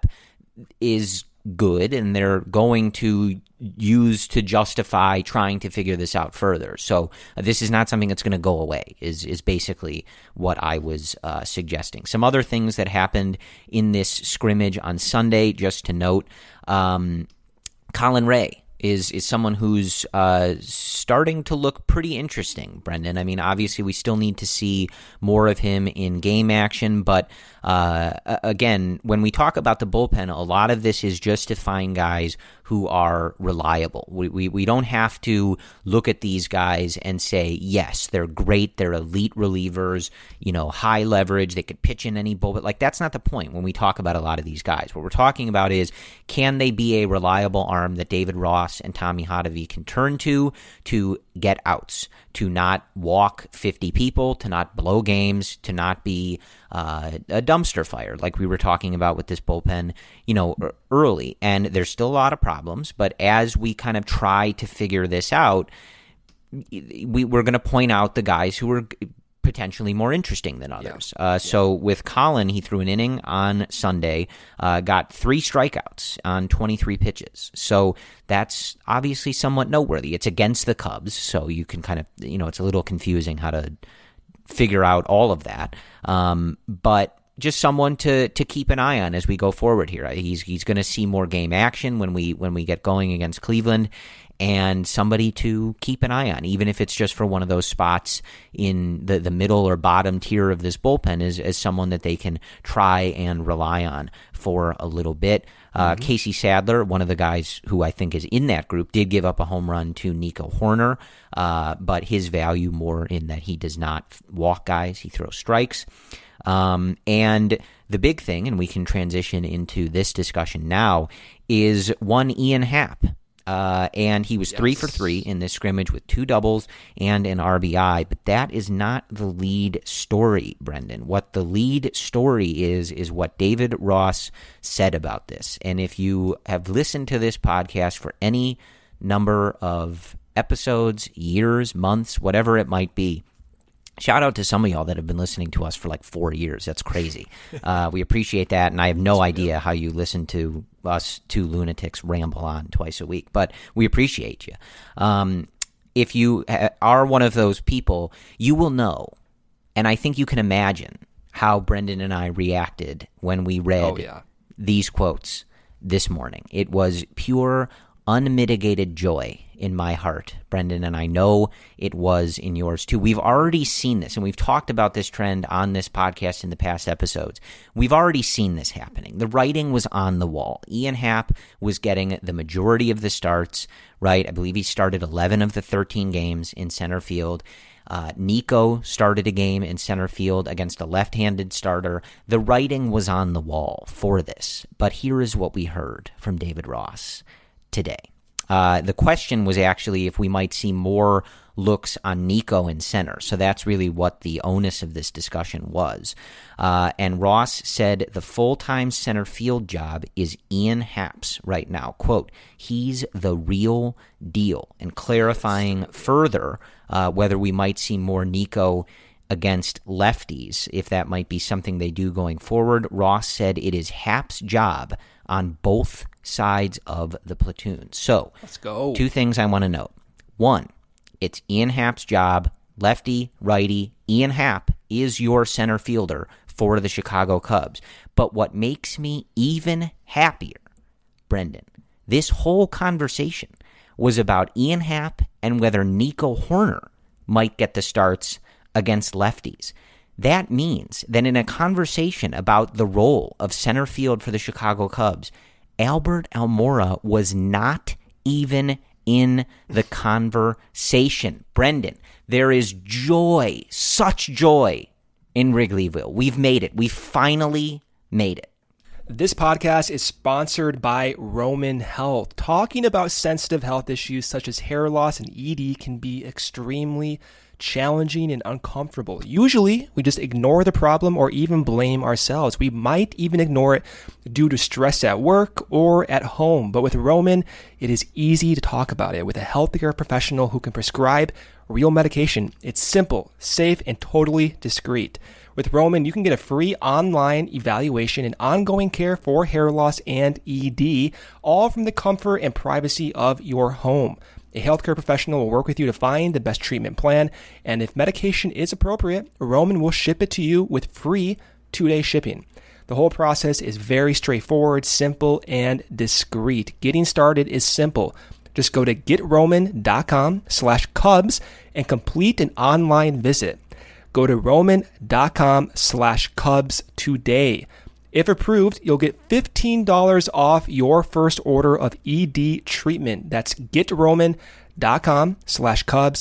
[SPEAKER 3] is good, and they're going to use to justify trying to figure this out further. So uh, this is not something that's going to go away, is is basically what I was uh, suggesting. Some other things that happened in this scrimmage on Sunday, just to note, um, Colin Ray is is someone who's uh, starting to look pretty interesting, Brendan. I mean, obviously we still need to see more of him in game action, but uh, again, when we talk about the bullpen, a lot of this is just to find guys who are reliable. We, we we don't have to look at these guys and say, yes, they're great, they're elite relievers, you know, high leverage, they could pitch in any bullpen. Like, that's not the point when we talk about a lot of these guys. What we're talking about is, can they be a reliable arm that David Ross and Tommy Hotovy can turn to to get outs, to not walk fifty people, to not blow games, to not be uh, a dumpster fire like we were talking about with this bullpen, you know, early. And there's still a lot of problems, but as we kind of try to figure this out, we, we're going to point out the guys who are potentially more interesting than others. Yeah. Uh, yeah. So with Colin, he threw an inning on Sunday, uh, got three strikeouts on twenty-three pitches. So that's obviously somewhat noteworthy. It's against the Cubs, so you can kind of, you know, it's a little confusing how to figure out all of that. Um, but just someone to to keep an eye on as we go forward here. He's he's going to see more game action when we when we get going against Cleveland, and somebody to keep an eye on, even if it's just for one of those spots in the, the middle or bottom tier of this bullpen, as, as someone that they can try and rely on for a little bit. Uh, mm-hmm. Casey Sadler, one of the guys who I think is in that group, did give up a home run to Nico Hoerner, uh, but his value more in that he does not walk guys, he throws strikes. Um, and the big thing, and we can transition into this discussion now, is one Ian Happ. Uh, and he was yes. three for three in this scrimmage with two doubles and an R B I. But that is not the lead story, Brendan. What the lead story is, is what David Ross said about this. And if you have listened to this podcast for any number of episodes, years, months, whatever it might be, shout out to some of y'all that have been listening to us for like four years. That's crazy. Uh, we appreciate that, and I have no idea how you listen to us two lunatics ramble on twice a week, but we appreciate you. Um, if you ha- are one of those people, you will know, and I think you can imagine how Brendan and I reacted when we read
[SPEAKER 4] oh, yeah.
[SPEAKER 3] these quotes this morning. It was pure, unmitigated joy in my heart, Brendan, and I know it was in yours too. We've already seen this, and we've talked about this trend on this podcast in the past episodes. We've already seen this happening. The writing was on the wall. Ian Happ was getting the majority of the starts, right? I believe he started eleven of the thirteen games in center field. Uh, Nico started a game in center field against a left-handed starter. The writing was on the wall for this, but here is what we heard from David Ross today. Uh, the question was actually if we might see more looks on Nico in center. So that's really what the onus of this discussion was. Uh, and Ross said the full-time center field job is Ian Happ's right now. Quote, he's the real deal. And clarifying further uh, whether we might see more Nico against lefties, if that might be something they do going forward. Ross said it is Happ's job on both sides of the platoon. So,
[SPEAKER 4] let's go.
[SPEAKER 3] Two things I want to note. One, it's Ian Happ's job, lefty, righty. Ian Happ is your center fielder for the Chicago Cubs. But what makes me even happier, Brendan, this whole conversation was about Ian Happ and whether Nico Hoerner might get the starts against lefties. That means that in a conversation about the role of center field for the Chicago Cubs, Albert Almora was not even in the conversation. Brendan, there is joy, such joy in Wrigleyville. We've made it. We finally made it.
[SPEAKER 4] This podcast is sponsored by Roman Health. Talking about sensitive health issues such as hair loss and E D can be extremely challenging and uncomfortable. Usually, we just ignore the problem or even blame ourselves. We might even ignore it due to stress at work or at home. But with Roman, it is easy to talk about it with a healthcare professional who can prescribe real medication. It's simple, safe, and totally discreet. With Roman, you can get a free online evaluation and ongoing care for hair loss and E D, all from the comfort and privacy of your home. A healthcare professional will work with you to find the best treatment plan, and if medication is appropriate, Roman will ship it to you with free two-day shipping. The whole process is very straightforward, simple, and discreet. Getting started is simple. Just go to getroman.com slash Cubs and complete an online visit. Go to roman.com slash Cubs today. If approved, you'll get fifteen dollars off your first order of E D treatment. That's getroman.com slash Cubs,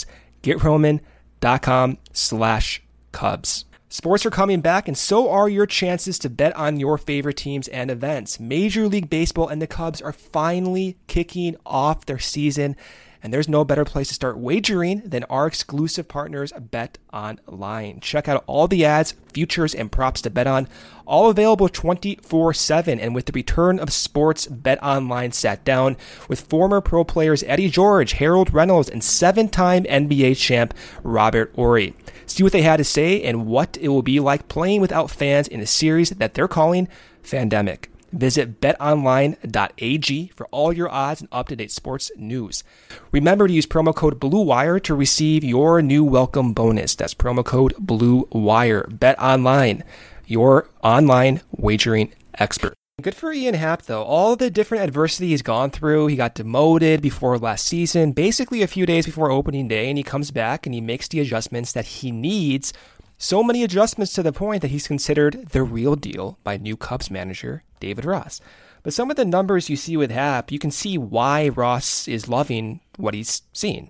[SPEAKER 4] getroman.com slash Cubs. Sports are coming back, and so are your chances to bet on your favorite teams and events. Major League Baseball and the Cubs are finally kicking off their season, and there's no better place to start wagering than our exclusive partners, BetOnline. Check out all the ads, futures, and props to bet on, all available twenty-four seven. And with the return of sports, BetOnline sat down with former pro players Eddie George, Harold Reynolds, and seven-time N B A champ Robert Horry. See what they had to say and what it will be like playing without fans in a series that they're calling Fandemic. Visit bet online dot a g for all your odds and up-to-date sports news. Remember to use promo code BlueWire to receive your new welcome bonus. That's promo code BlueWire. BetOnline, your online wagering expert. Good for Ian Happ, though. All the different adversity he's gone through. He got demoted before last season, basically a few days before opening day, and he comes back and he makes the adjustments that he needs. So many adjustments to the point that he's considered the real deal by new Cubs manager David Ross. But some of the numbers you see with Happ, you can see why Ross is loving what he's seen.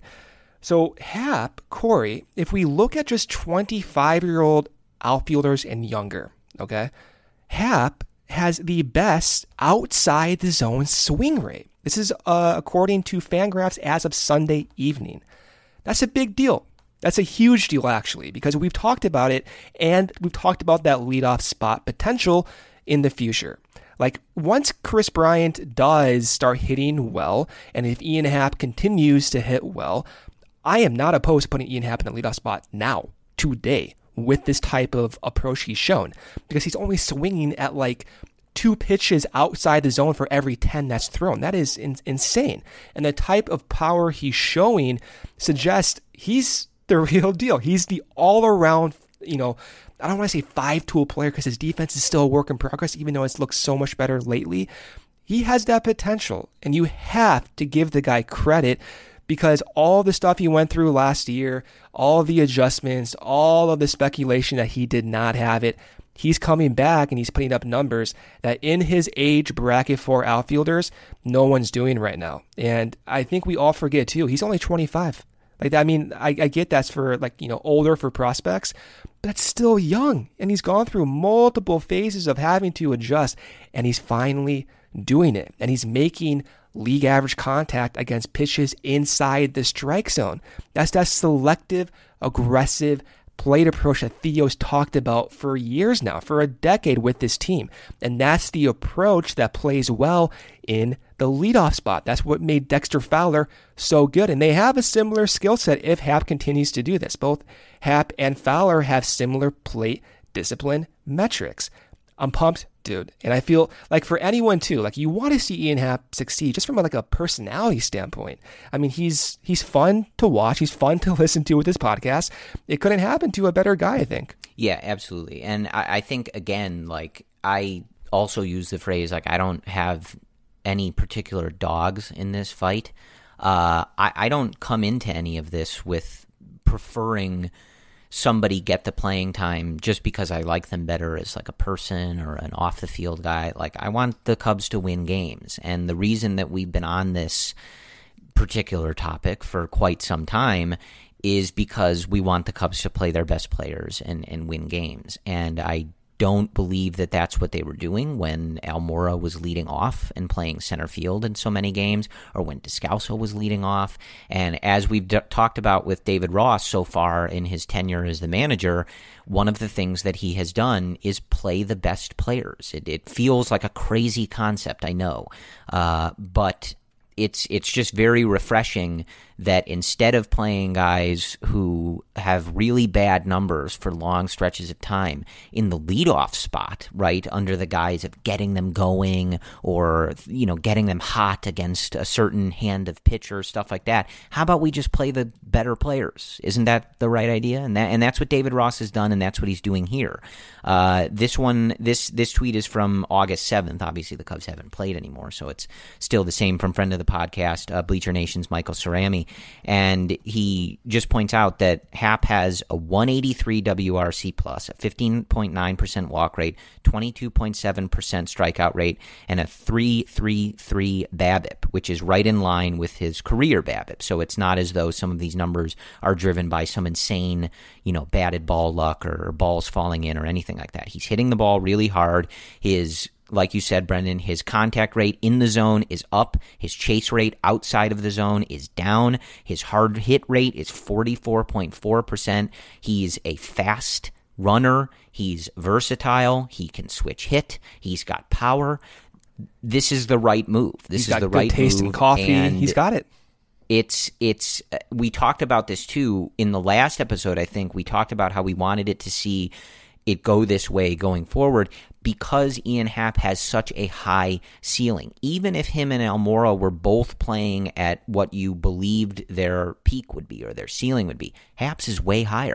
[SPEAKER 4] So Happ, Corey, if we look at just twenty-five-year-old outfielders and younger, okay, Happ has the best outside the zone swing rate. This is uh, according to Fangraphs as of Sunday evening. That's a big deal. That's a huge deal, actually, because we've talked about it, and we've talked about that leadoff spot potential in the future. Like, once Chris Bryant does start hitting well, and if Ian Happ continues to hit well, I am not opposed to putting Ian Happ in the leadoff spot now, today, with this type of approach he's shown, because he's only swinging at like two pitches outside the zone for every ten that's thrown. That is in- insane. And the type of power he's showing suggests he's the real deal. He's the all-around, you know, I don't want to say five-tool player because his defense is still a work in progress, even though it's looked so much better lately. He has that potential, and you have to give the guy credit, because all the stuff he went through last year, all of the adjustments, all of the speculation that he did not have it, he's coming back and he's putting up numbers that in his age bracket for outfielders, no one's doing right now. And I think we all forget too, he's only twenty-five. Like, I mean, I, I get that's for like, you know, older for prospects, but that's still young. And he's gone through multiple phases of having to adjust, and he's finally doing it. And he's making league average contact against pitches inside the strike zone. That's that selective, aggressive plate approach that Theo's talked about for years now, for a decade with this team. And that's the approach that plays well in the leadoff spot. That's what made Dexter Fowler so good. And they have a similar skill set if Happ continues to do this. Both Happ and Fowler have similar plate discipline metrics. I'm pumped, dude. And I feel like for anyone too, like you want to see Ian Happ succeed just from a, like a personality standpoint. I mean, he's he's fun to watch. He's fun to listen to with his podcast. It couldn't happen to a better guy, I think.
[SPEAKER 3] Yeah, absolutely. And I, I think, again, like I also use the phrase, like I don't have any particular dogs in this fight. Uh, I, I don't come into any of this with preferring somebody get the playing time just because I like them better as like a person or an off the field guy. Like I want the Cubs to win games. And the reason that we've been on this particular topic for quite some time is because we want the Cubs to play their best players and, and win games. And I don't believe that that's what they were doing when Almora was leading off and playing center field in so many games, or when Descalso was leading off. And as we've d- talked about with David Ross so far in his tenure as the manager, one of the things that he has done is play the best players. It, it feels like a crazy concept, I know, uh, but it's it's just very refreshing that instead of playing guys who have really bad numbers for long stretches of time in the leadoff spot, right, under the guise of getting them going or, you know, getting them hot against a certain hand of pitcher, stuff like that, how about we just play the better players? Isn't that the right idea? And that and that's what David Ross has done, and that's what he's doing here. Uh, this one, this this tweet is from August seventh. Obviously, the Cubs haven't played anymore, so it's still the same from friend of the podcast, uh, Bleacher Nation's Michael Cerami. And he just points out that Happ has a one eighty-three W R C plus, a fifteen point nine percent walk rate, twenty-two point seven percent strikeout rate, and a three three three BABIP, which is right in line with his career BABIP. So it's not as though some of these numbers are driven by some insane, you know, batted ball luck or balls falling in or anything like that. He's hitting the ball really hard. His Like you said, Brendan, his contact rate in the zone is up. His chase rate outside of the zone is down. His hard hit rate is forty-four point four percent. He's a fast runner. He's versatile. He can switch hit. He's got power. This is the right move. This
[SPEAKER 4] He's
[SPEAKER 3] is
[SPEAKER 4] got
[SPEAKER 3] the
[SPEAKER 4] good
[SPEAKER 3] right
[SPEAKER 4] taste
[SPEAKER 3] move.
[SPEAKER 4] in coffee.
[SPEAKER 3] And
[SPEAKER 4] He's got it.
[SPEAKER 3] It's, it's, we talked about this too in the last episode. I think we talked about how we wanted it to see it go this way going forward because Ian Happ has such a high ceiling. Even if him and Almora were both playing at what you believed their peak would be or their ceiling would be, Happ's is way higher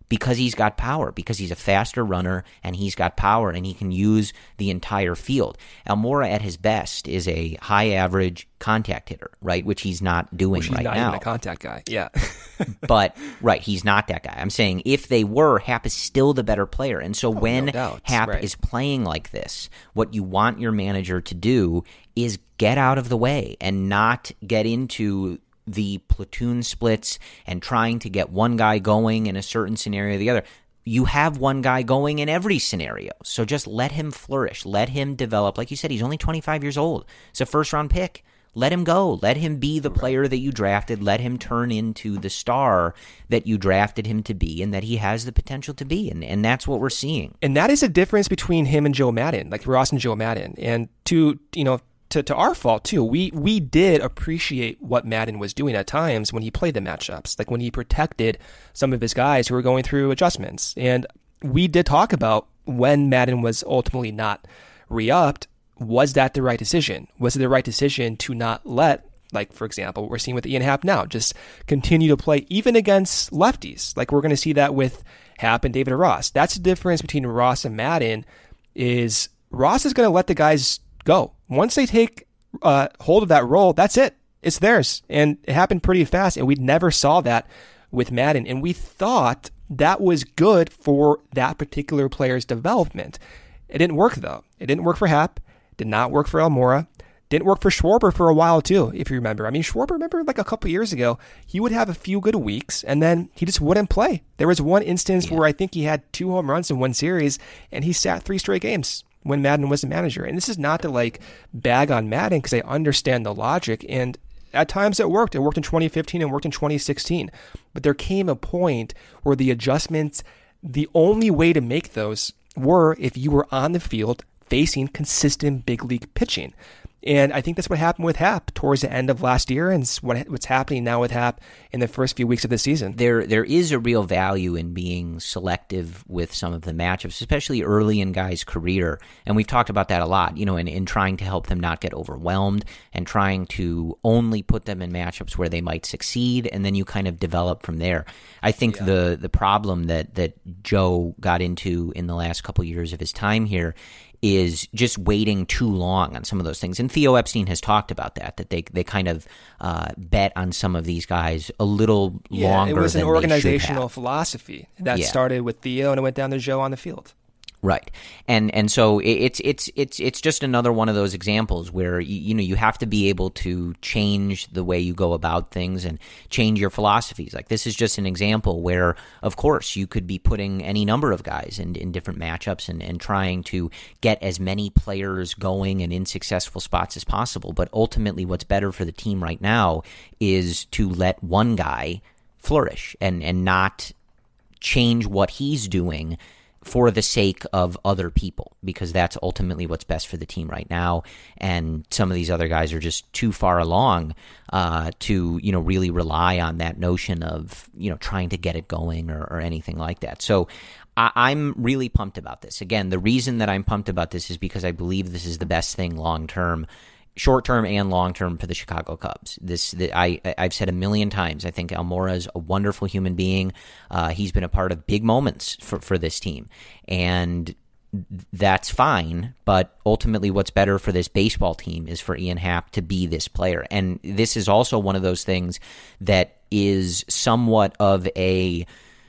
[SPEAKER 3] because he's got power, because he's a faster runner and he's got power and he can use the entire field. Almora at his best is a high average contact hitter, right? Which he's not doing
[SPEAKER 4] Which he's
[SPEAKER 3] right
[SPEAKER 4] not
[SPEAKER 3] now.
[SPEAKER 4] Even a contact guy. Yeah.
[SPEAKER 3] But, right, he's not that guy. I'm saying if they were, Happ is still the better player. And so
[SPEAKER 4] oh,
[SPEAKER 3] when
[SPEAKER 4] no
[SPEAKER 3] Happ
[SPEAKER 4] right.
[SPEAKER 3] is playing like this, what you want your manager to do is get out of the way and not get into the platoon splits and trying to get one guy going in a certain scenario or the other. You have one guy going in every scenario. So just let him flourish. Let him develop. Like you said, he's only twenty-five years old. It's a first-round pick. Let him go. Let him be the player that you drafted. Let him turn into the star that you drafted him to be and that he has the potential to be. And, and that's what we're seeing.
[SPEAKER 4] And that is a difference between him and Joe Maddon, like Ross and Joe Maddon. And to, you know, To, to our fault, too. We we did appreciate what Maddon was doing at times when he played the matchups, like when he protected some of his guys who were going through adjustments. And we did talk about when Maddon was ultimately not re-upped, was that the right decision? Was it the right decision to not let, like, for example, what we're seeing with Ian Happ now, just continue to play even against lefties? Like we're going to see that with Happ and David Ross. That's the difference between Ross and Maddon is Ross is going to let the guys go. Once they take uh, hold of that role, that's it. It's theirs. And it happened pretty fast, and we never saw that with Maddon. And we thought that was good for that particular player's development. It didn't work, though. It didn't work for Happ. Did not work for Almora. Didn't work for Schwarber for a while, too, if you remember. I mean, Schwarber, remember, like a couple years ago, he would have a few good weeks, and then he just wouldn't play. There was one instance yeah. where I think he had two home runs in one series, and he sat three straight games when Maddon was the manager. And this is not to like bag on Maddon because I understand the logic. And at times it worked. It worked in twenty fifteen and worked in twenty sixteen. But there came a point where the adjustments, the only way to make those were if you were on the field facing consistent big league pitching. And I think that's what happened with Happ towards the end of last year, and it's what, what's happening now with Happ in the first few weeks of the season.
[SPEAKER 3] There, there is a real value in being selective with some of the matchups, especially early in guys' career. And we've talked about that a lot, you know, in, in trying to help them not get overwhelmed and trying to only put them in matchups where they might succeed, and then you kind of develop from there. I think yeah. the the problem that, that Joe got into in the last couple years of his time here is just waiting too long on some of those things. And Theo Epstein has talked about that, that they they kind of uh, bet on some of these guys a little
[SPEAKER 4] yeah,
[SPEAKER 3] longer than
[SPEAKER 4] it was an
[SPEAKER 3] they
[SPEAKER 4] organizational
[SPEAKER 3] should have.
[SPEAKER 4] philosophy that
[SPEAKER 3] yeah.
[SPEAKER 4] started with Theo and it went down to Joe on the field.
[SPEAKER 3] Right, and and so it's it's it's it's just another one of those examples where you, you know you have to be able to change the way you go about things and change your philosophies. Like this is just an example where, of course, you could be putting any number of guys in, in different matchups and, and trying to get as many players going and in successful spots as possible. But ultimately, what's better for the team right now is to let one guy flourish and and not change what he's doing for the sake of other people, because that's ultimately what's best for the team right now. And some of these other guys are just too far along uh, to, you know, really rely on that notion of, you know, trying to get it going or, or anything like that. So I, I'm really pumped about this. Again, the reason that I'm pumped about this is because I believe this is the best thing long term, short term and long term for the Chicago Cubs. This the, I I've said a million times. I think Almora is a wonderful human being. Uh, he's been a part of big moments for for this team, and that's fine. But ultimately, what's better for this baseball team is for Ian Happ to be this player. And this is also one of those things that is somewhat of a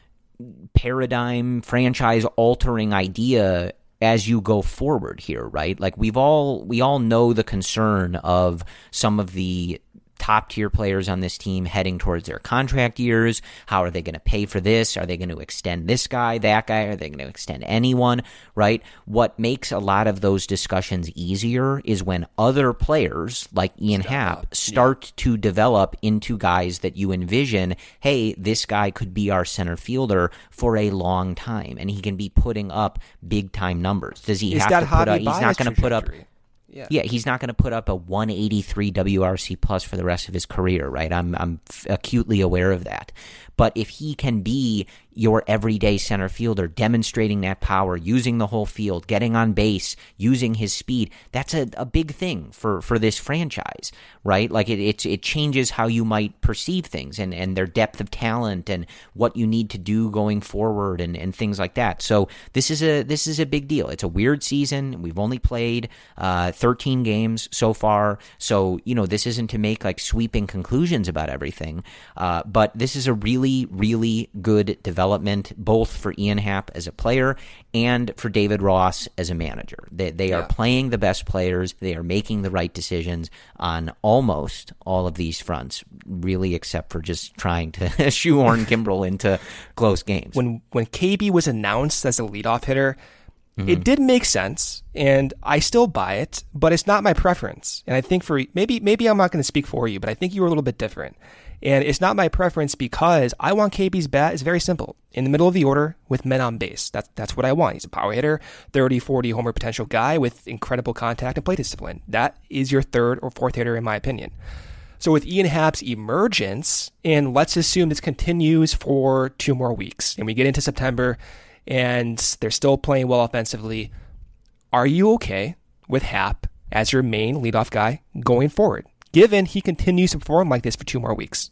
[SPEAKER 3] paradigm, franchise altering idea as you go forward here, right? Like we've all we all know the concern of some of the top tier players on this team heading towards their contract years. How are they going to pay for this? Are they going to extend this guy, that guy? Are they going to extend anyone, right? What makes a lot of those discussions easier is when other players like Ian Step Happ up. start yeah. to develop into guys that you envision, hey, this guy could be our center fielder for a long time, and he can be putting up big time numbers. Does he
[SPEAKER 4] is
[SPEAKER 3] have
[SPEAKER 4] that
[SPEAKER 3] to put up? He's not going to put up.
[SPEAKER 4] Yeah.
[SPEAKER 3] yeah, he's not going to put up a one eighty-three W R C plus for the rest of his career, right? I'm I'm acutely aware of that. But if he can be your everyday center fielder, demonstrating that power, using the whole field, getting on base, using his speed. That's a, a big thing for, for this franchise, right? Like it, it it changes how you might perceive things and, and their depth of talent and what you need to do going forward and, and things like that. So this is a this is a big deal. It's a weird season. We've only played uh, thirteen games so far. So, you know, this isn't to make like sweeping conclusions about everything. Uh, but this is a really, really good development, both for Ian Happ as a player and for David Ross as a manager. They, they yeah. are playing the best players. They are making the right decisions on almost all of these fronts, really, except for just trying to shoehorn Kimbrel into close games.
[SPEAKER 4] When when K B was announced as a leadoff hitter, mm-hmm. it did make sense, and I still buy it, but it's not my preference. And I think for maybe maybe I'm not going to speak for you, but I think you were a little bit different. And it's not my preference because I want K B's bat. It's very simple. In the middle of the order with men on base. That's, that's what I want. He's a power hitter, thirty, forty homer potential guy with incredible contact and plate discipline. That is your third or fourth hitter, in my opinion. So with Ian Happ's emergence, and let's assume this continues for two more weeks, and we get into September, and they're still playing well offensively, are you okay with Happ as your main leadoff guy going forward, given he continues to perform like this for two more weeks?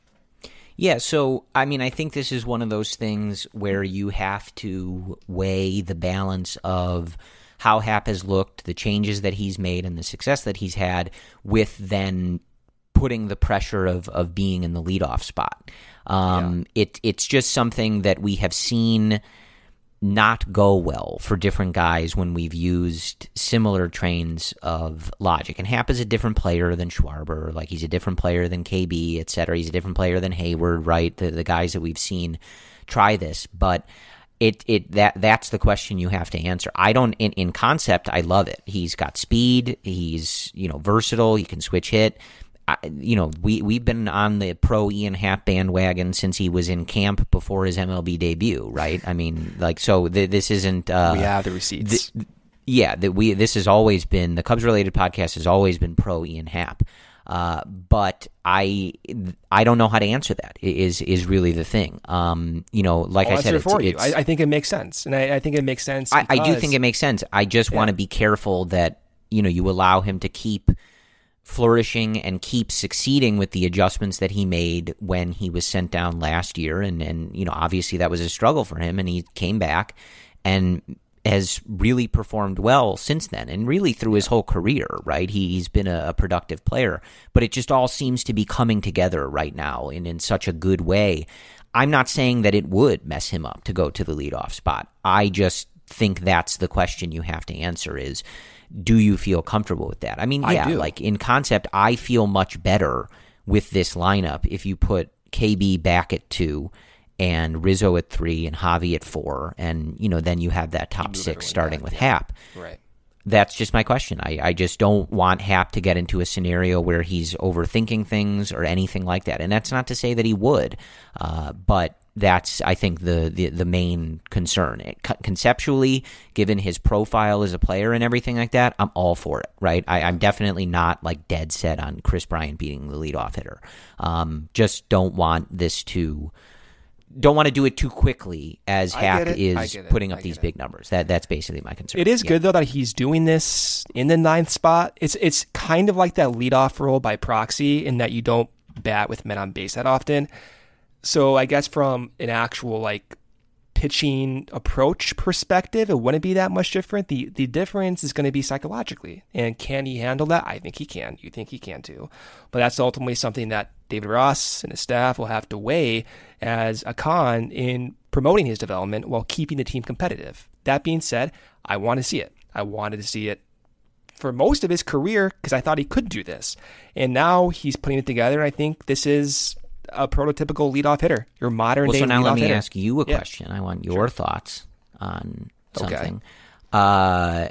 [SPEAKER 3] Yeah, so, I mean, I think this is one of those things where you have to weigh the balance of how Happ has looked, the changes that he's made, and the success that he's had, with then putting the pressure of, of being in the leadoff spot. Um, yeah. it, it's just something that we have seen not go well for different guys when we've used similar trains of logic. And Happ is a different player than Schwarber, like he's a different player than K B, et cetera. He's a different player than Hayward, right? The the guys that we've seen try this, but it it that that's the question you have to answer. I don't in, in concept, I love it. He's got speed, he's, you know, versatile, he can switch hit. I, you know, we, we've been on the pro Ian Happ bandwagon since he was in camp before his M L B debut, right? I mean, like, so th- this isn't... Uh,
[SPEAKER 4] we have the receipts.
[SPEAKER 3] Th- yeah, that we this has always been, the Cubs-related podcast has always been pro Ian Happ. Uh, but I I don't know how to answer that, is is really the thing. Um, you know, like
[SPEAKER 4] I'll
[SPEAKER 3] I said,
[SPEAKER 4] it's, for
[SPEAKER 3] it's,
[SPEAKER 4] you. I, I think it makes sense. And I, I think it makes sense
[SPEAKER 3] I, I do think it makes sense. I just yeah. want to be careful that, you know, you allow him to keep flourishing and keep succeeding with the adjustments that he made when he was sent down last year. And, and, you know, obviously that was a struggle for him, and he came back and has really performed well since then, and really through his whole career, right? He, he's been a, a productive player, but it just all seems to be coming together right now in, in such a good way. I'm not saying that it would mess him up to go to the leadoff spot. I just think that's the question you have to answer is, do you feel comfortable with that? I mean, yeah, I like in concept, I feel much better with this lineup if you put K B back at two and Rizzo at three and Javi at four, and, you know, then you have that top six starting back, with yeah. Happ.
[SPEAKER 4] Right.
[SPEAKER 3] That's just my question. I, I just don't want Happ to get into a scenario where he's overthinking things or anything like that. And that's not to say that he would, uh, but that's, I think, the, the, the main concern. It, conceptually, given his profile as a player and everything like that, I'm all for it, right? I, I'm definitely not like dead set on Chris Bryant beating the leadoff hitter. Um, just don't want this to... Don't want to do it too quickly as Happ is putting up these big numbers. That That's basically my concern.
[SPEAKER 4] It is
[SPEAKER 3] yeah.
[SPEAKER 4] good, though, that he's doing this in the ninth spot. It's it's kind of like that leadoff role by proxy in that you don't bat with men on base that often. So I guess from an actual like pitching approach perspective, it wouldn't be that much different. The the difference is going to be psychologically. And can he handle that? I think he can. You think he can too. But that's ultimately something that David Ross and his staff will have to weigh as a con in promoting his development while keeping the team competitive. That being said, I want to see it. I wanted to see it for most of his career because I thought he could do this. And now he's putting it together. I think this is a prototypical leadoff hitter, your modern
[SPEAKER 3] well,
[SPEAKER 4] day
[SPEAKER 3] so now
[SPEAKER 4] leadoff
[SPEAKER 3] let me
[SPEAKER 4] hitter.
[SPEAKER 3] ask you a
[SPEAKER 4] yeah.
[SPEAKER 3] question. I want your
[SPEAKER 4] sure.
[SPEAKER 3] thoughts on something.
[SPEAKER 4] Okay.
[SPEAKER 3] Uh,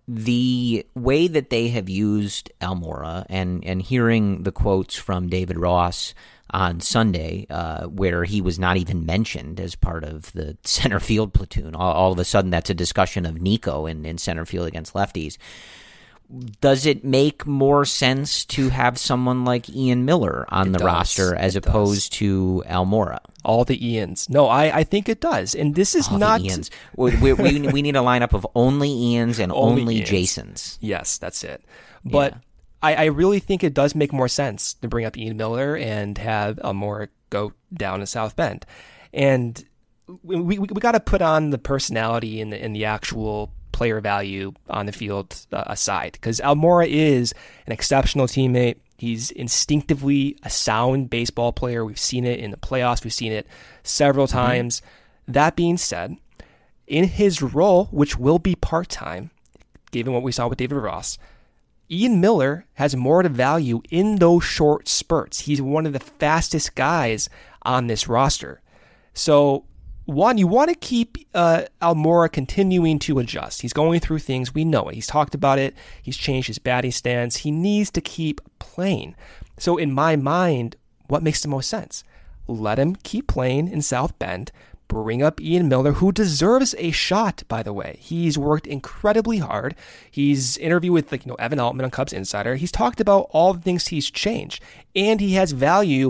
[SPEAKER 3] the way that they have used Almora and, and hearing the quotes from David Ross on Sunday, uh, where he was not even mentioned as part of the center field platoon. All, all of a sudden, that's a discussion of Nico in, in center field against lefties. does it make more sense to have someone like Ian Miller on
[SPEAKER 4] It
[SPEAKER 3] the
[SPEAKER 4] does.
[SPEAKER 3] roster as
[SPEAKER 4] It
[SPEAKER 3] opposed
[SPEAKER 4] does.
[SPEAKER 3] to Almora?
[SPEAKER 4] All the Ians. No, I, I think it does. And this is
[SPEAKER 3] All
[SPEAKER 4] not...
[SPEAKER 3] the Ians. We, we, we we need a lineup of only Ians and
[SPEAKER 4] Only
[SPEAKER 3] only,
[SPEAKER 4] Ians.
[SPEAKER 3] Jasons.
[SPEAKER 4] Yes, that's it. But
[SPEAKER 3] Yeah.
[SPEAKER 4] I, I really think it does make more sense to bring up Ian Miller and have Almora go down to South Bend. And we we, we got to put on the personality and the, and the actual player value on the field uh, aside, because Almora is an exceptional teammate. He's instinctively a sound baseball player. We've seen it in the playoffs. We've seen it several times. Mm-hmm. That being said, in his role, which will be part-time, given what we saw with David Ross, Ian Miller has more to value in those short spurts. He's one of the fastest guys on this roster. So, one, you want to keep uh, Almora continuing to adjust. He's going through things. We know it. He's talked about it. He's changed his batting stance. He needs to keep playing. So in my mind, what makes the most sense? Let him keep playing in South Bend. Bring up Ian Miller, who deserves a shot, by the way. He's worked incredibly hard. He's interviewed with like, you know, Evan Altman on Cubs Insider. He's talked about all the things he's changed. And he has value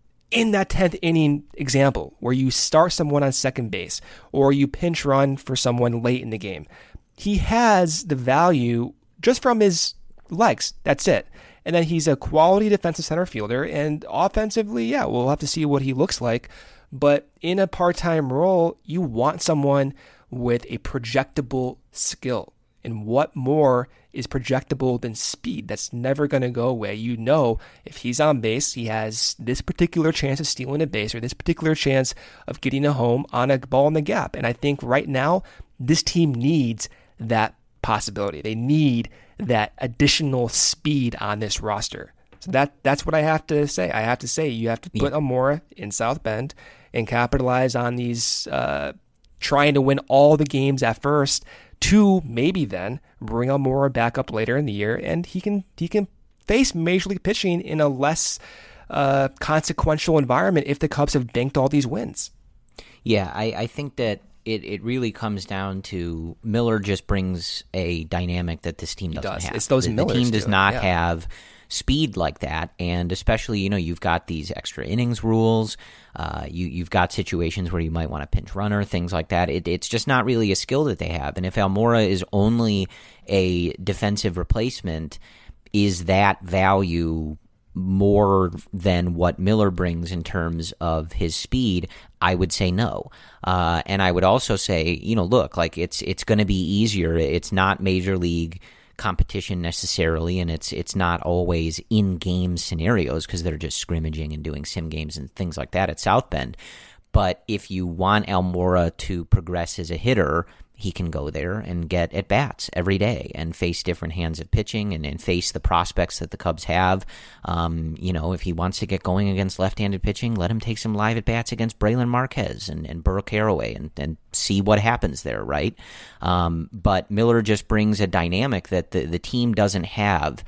[SPEAKER 4] in that tenth inning example where you start someone on second base or you pinch run for someone late in the game. He has the value just from his legs. That's it. And then he's a quality defensive center fielder. And offensively, yeah, we'll have to see what he looks like. But in a part-time role, you want someone with a projectable skill. And what more is projectable than speed? That's never going to go away. You know, if he's on base, he has this particular chance of stealing a base or this particular chance of getting a home on a ball in the gap. And I think right now, this team needs that possibility. They need that additional speed on this roster. So that that's what I have to say. I have to say you have to put
[SPEAKER 3] Yeah.
[SPEAKER 4] Almora in South Bend and capitalize on these uh, trying to win all the games at first, to maybe then bring Almora back up later in the year, and he can he can face Major League pitching in a less uh, consequential environment if the Cubs have banked all these wins.
[SPEAKER 3] Yeah, I, I think that it, it really comes down to Miller just brings a dynamic that this team doesn't
[SPEAKER 4] does.
[SPEAKER 3] have.
[SPEAKER 4] It's those
[SPEAKER 3] the, the
[SPEAKER 4] Millers
[SPEAKER 3] team does
[SPEAKER 4] do it,
[SPEAKER 3] not
[SPEAKER 4] yeah.
[SPEAKER 3] have speed like that, and especially, you know, you've got these extra innings rules. Uh, you, you've got situations where you might want a pinch runner, things like that. It, it's just not really a skill that they have. And if Almora is only a defensive replacement, is that value more than what Miller brings in terms of his speed? I would say no. Uh, and I would also say, you know, look, like it's it's going to be easier. It's not Major League competition necessarily, and it's it's not always in-game scenarios because they're just scrimmaging and doing sim games and things like that at South Bend. But if you want Almora to progress as a hitter, he can go there and get at-bats every day and face different hands of pitching and, and face the prospects that the Cubs have. Um, you know, if he wants to get going against left-handed pitching, let him take some live at-bats against Braylon Marquez and, and Burke Carraway and, and see what happens there, right? Um, but Miller just brings a dynamic that the, the team doesn't have.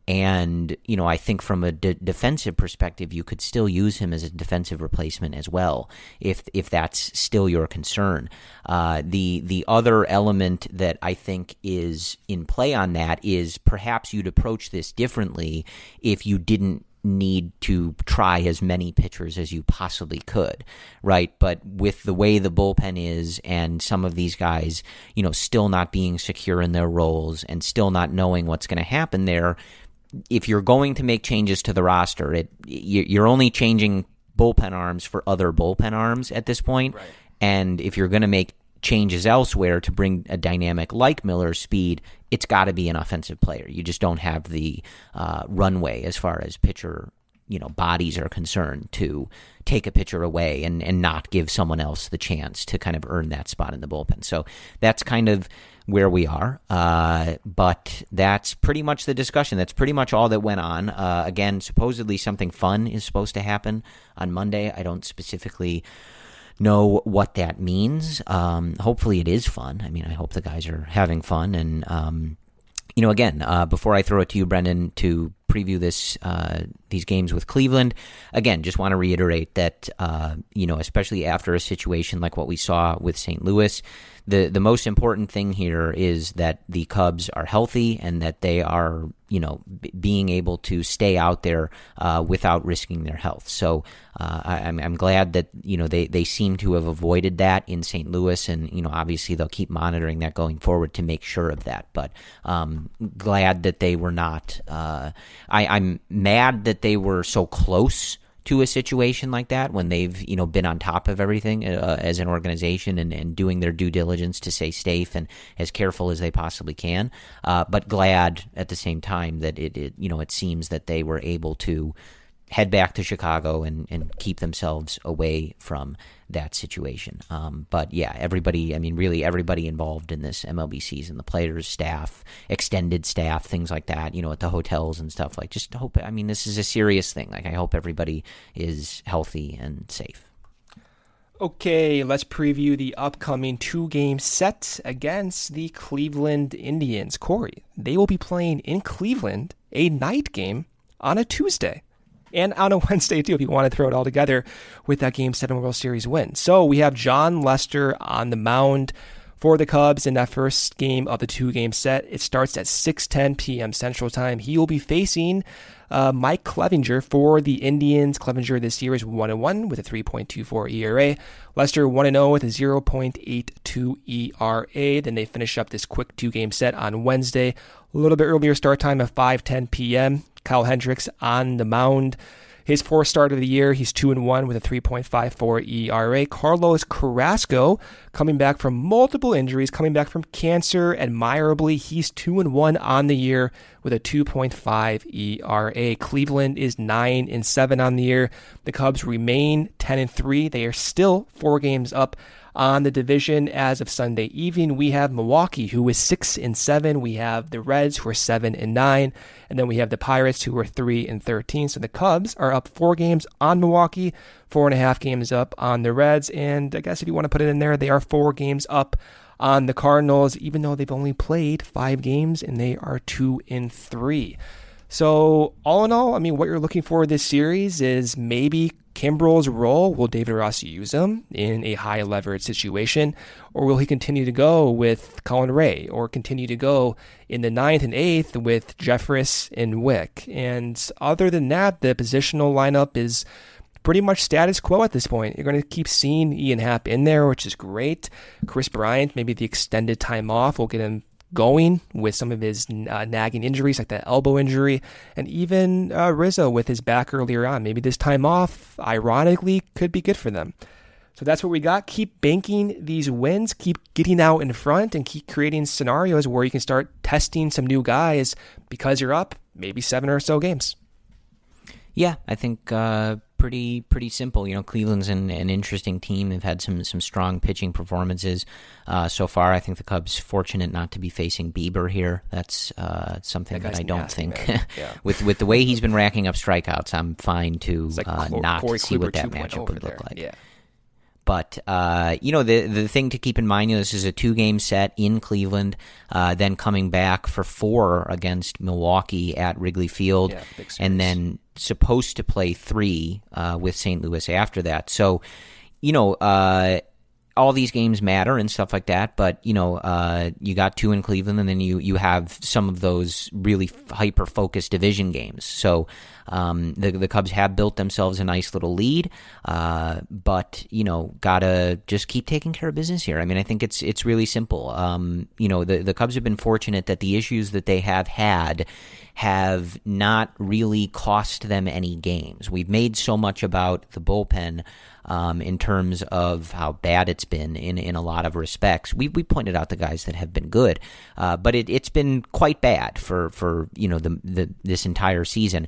[SPEAKER 3] And, you know, I think from a de- defensive perspective, you could still use him as a defensive replacement as well, if if that's still your concern. Uh, the the other element that I think is in play on that is perhaps you'd approach this differently if you didn't need to try as many pitchers as you possibly could, right? But with the way the bullpen is and some of these guys, you know, still not being secure in their roles and still not knowing what's going to happen there, if you're going to make changes to the roster, it you're only changing bullpen arms for other bullpen arms at this point.
[SPEAKER 4] Right.
[SPEAKER 3] And if you're going to make changes elsewhere to bring a dynamic like Miller's speed, it's got to be an offensive player. You just don't have the uh, runway as far as pitcher, you know, bodies are concerned to take a pitcher away and, and not give someone else the chance to kind of earn that spot in the bullpen. So that's kind of where we are. Uh, but that's pretty much the discussion. That's pretty much all that went on. Uh, again, supposedly something fun is supposed to happen on Monday. I don't specifically know what that means. Um, hopefully it is fun. I mean, I hope the guys are having fun. And, um, you know, again, uh, before I throw it to you, Brendan, to preview this uh, these games with Cleveland. Again, just want to reiterate that uh, you know, especially after a situation like what we saw with Saint Louis, the the most important thing here is that the Cubs are healthy and that they are, you know, b- being able to stay out there uh, without risking their health. So uh, I, I'm I'm glad that, you know, they they seem to have avoided that in Saint Louis, and, you know, obviously they'll keep monitoring that going forward to make sure of that. But um, glad that they were not. Uh, I, I'm mad that they were so close to a situation like that when they've, you know, been on top of everything uh, as an organization and, and doing their due diligence to stay safe and as careful as they possibly can. Uh, but glad at the same time that it, it, you know, it seems that they were able to head back to Chicago and, and keep themselves away from that situation. Um, but yeah, everybody, I mean, really everybody involved in this M L B season, the players, staff, extended staff, things like that, you know, at the hotels and stuff, like, just hope, I mean, this is a serious thing. Like, I hope everybody is healthy and safe.
[SPEAKER 4] Okay, let's preview the upcoming two-game set against the Cleveland Indians. Corey, they will be playing in Cleveland, a night game on a Tuesday. And on a Wednesday, too, if you want to throw it all together with that Game seven World Series win. So we have Jon Lester on the mound for the Cubs in that first game of the two-game set. It starts at six ten p.m. Central Time. He will be facing uh, Mike Clevinger for the Indians. Clevinger this year is one and one with a three point two four E R A. Lester one and oh with a zero point eight two E R A. Then they finish up this quick two-game set on Wednesday. A little bit earlier start time at five ten p.m. Kyle Hendricks on the mound. His fourth start of the year, he's two and one with a three point five four E R A. Carlos Carrasco, coming back from multiple injuries, coming back from cancer, admirably, he's two and one on the year with a two point five E R A. Cleveland is nine and seven on the year. The Cubs remain ten and three. They are still four games up on the division as of Sunday evening. We have Milwaukee, who is six and seven. We have the Reds, who are seven and nine, and then we have the Pirates, who are three and thirteen. So the Cubs are up four games on Milwaukee, four and a half games up on the Reds, and I guess if you want to put it in there, they are four games up on the Cardinals, even though they've only played five games and they are two and three. So all in all, I mean, what you're looking for this series is maybe Kimbrel's role. Will David Ross use him in a high leverage situation, or will he continue to go with Colin Ray, or continue to go in the ninth and eighth with Jeffress and Wick? And other than that, the positional lineup is pretty much status quo at this point. You're going to keep seeing Ian Happ in there, which is great. Chris Bryant, maybe the extended time off will get him going with some of his uh, nagging injuries, like that elbow injury, and even uh, Rizzo with his back earlier on. Maybe this time off, ironically, could be good for them. So that's what we got. Keep banking these wins, keep getting out in front, and keep creating scenarios where you can start testing some new guys because you're up maybe seven or so games.
[SPEAKER 3] Yeah, I think uh, pretty pretty simple. You know, Cleveland's an, an interesting team. They've had some some strong pitching performances uh, so far. I think the Cubs fortunate not to be facing Bieber here. That's uh, something that, that I don't nasty, think. Yeah. with with the way he's been racking up strikeouts, I'm fine to like uh, Cor- not Corey see Kluber what that matchup would look like.
[SPEAKER 4] Yeah.
[SPEAKER 3] But, uh, you know, the the thing to keep in mind, you know, this is a two-game set in Cleveland, uh, then coming back for four against Milwaukee at Wrigley Field,
[SPEAKER 4] yeah,
[SPEAKER 3] and then supposed to play three uh, with Saint Louis after that. So, you know, uh, all these games matter and stuff like that, but, you know, uh, you got two in Cleveland, and then you, you have some of those really hyper-focused division games. So um, the the Cubs have built themselves a nice little lead, uh, but, you know, gotta just keep taking care of business here. I mean, I think it's it's really simple. Um, you know, the, the Cubs have been fortunate that the issues that they have had have not really cost them any games. We've made so much about the bullpen um, in terms of how bad it's been in, in a lot of respects. We we pointed out the guys that have been good, uh, but it, it's been quite bad for, for you know the, the this entire season, and it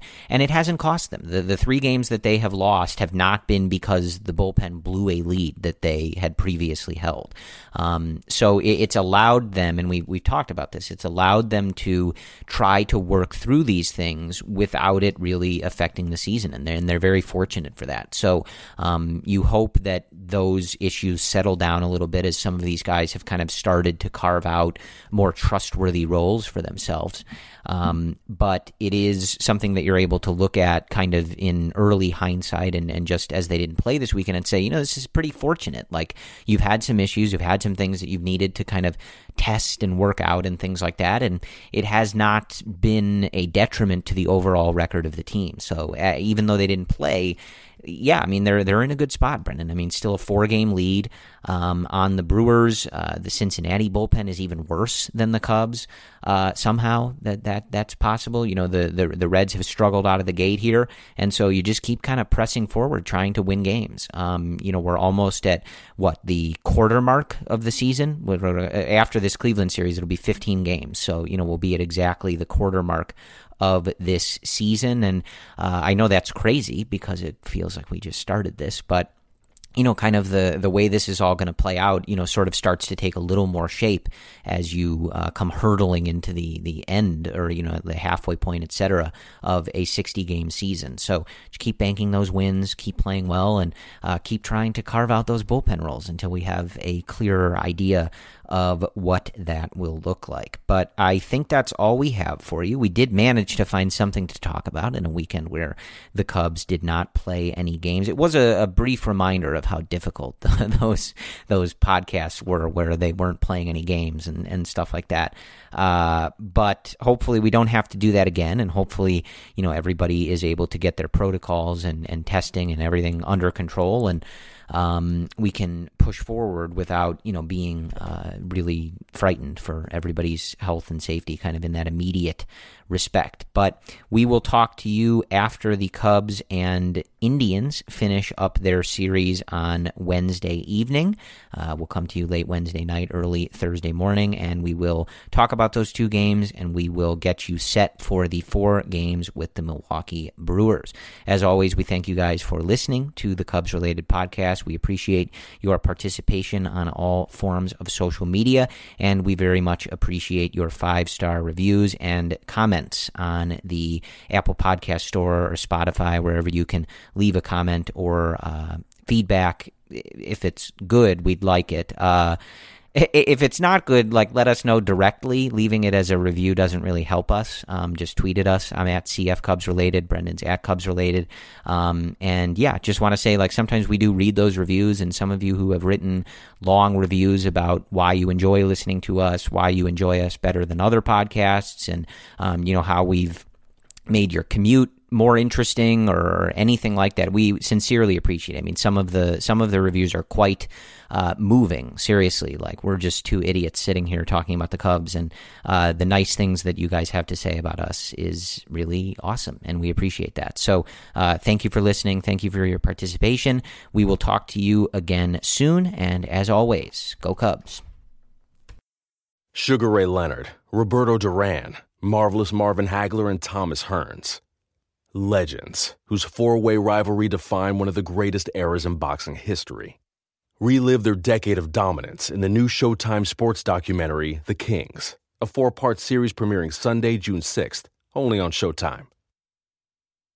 [SPEAKER 3] it hasn't cost them. The the three games that they have lost have not been because the bullpen blew a lead that they had previously held. Um, so it, it's allowed them, and we we've talked about this. It's allowed them to try to work through these things without it really affecting the season, and they're, and they're very fortunate for that. So um, you hope that those issues settle down a little bit as some of these guys have kind of started to carve out more trustworthy roles for themselves. Um, but it is something that you're able to look at kind of in early hindsight and, and just as they didn't play this weekend and say, you know, this is pretty fortunate. Like, you've had some issues, you've had some things that you've needed to kind of test and work out and things like that, and it has not been a detriment to the overall record of the team. So uh, even though they didn't play, yeah, I mean, they're they're in a good spot, Brendan. I mean, still a four-game lead um, on the Brewers. Uh, the Cincinnati bullpen is even worse than the Cubs. Uh, somehow that that that's possible. You know, the, the the Reds have struggled out of the gate here, and so you just keep kind of pressing forward, trying to win games. Um, you know, we're almost at what the quarter mark of the season. After this Cleveland series, it'll be fifteen games. So you know, we'll be at exactly the quarter mark of this season. And uh, I know that's crazy because it feels like we just started this, but you know, kind of the, the way this is all going to play out, you know, sort of starts to take a little more shape as you uh, come hurtling into the, the end or, you know, the halfway point, et cetera, of a sixty-game season. So just keep banking those wins, keep playing well, and uh, keep trying to carve out those bullpen roles until we have a clearer idea of what that will look like. But I think that's all we have for you. We did manage to find something to talk about in a weekend where the Cubs did not play any games. It was a, a brief reminder of how difficult those those podcasts were where they weren't playing any games and, and stuff like that. Uh, but hopefully we don't have to do that again, and hopefully, you know, everybody is able to get their protocols and, and testing and everything under control, and Um, we can push forward without, you know, being uh, really frightened for everybody's health and safety kind of in that immediate respect. But we will talk to you after the Cubs and Indians finish up their series on Wednesday evening. Uh, we'll come to you late Wednesday night, early Thursday morning, and we will talk about those two games, and we will get you set for the four games with the Milwaukee Brewers. As always, we thank you guys for listening to the Cubs-related podcast. We appreciate your participation on all forms of social media, and we very much appreciate your five-star reviews and comments on the Apple Podcast Store or Spotify, wherever you can leave a comment or uh, feedback. If it's good, we'd like it. Uh, if it's not good, like, let us know directly. Leaving it as a review doesn't really help us. Um, just tweet at us. I'm at C F Cubs Related. Brendan's at Cubs Related. Um, and yeah, just want to say, like, sometimes we do read those reviews, and some of you who have written long reviews about why you enjoy listening to us, why you enjoy us better than other podcasts, and um, you know, how we've made your commute more interesting or anything like that. We sincerely appreciate it. I mean, some of the some of the reviews are quite uh, moving, seriously. Like, we're just two idiots sitting here talking about the Cubs, and uh, the nice things that you guys have to say about us is really awesome, and we appreciate that. So uh, thank you for listening. Thank you for your participation. We will talk to you again soon, and as always, go Cubs.
[SPEAKER 5] Sugar Ray Leonard, Roberto Duran, Marvelous Marvin Hagler, and Thomas Hearns. Legends, whose four-way rivalry defined one of the greatest eras in boxing history. Relive their decade of dominance in the new Showtime sports documentary, The Kings, a four-part series premiering Sunday, June sixth, only on Showtime.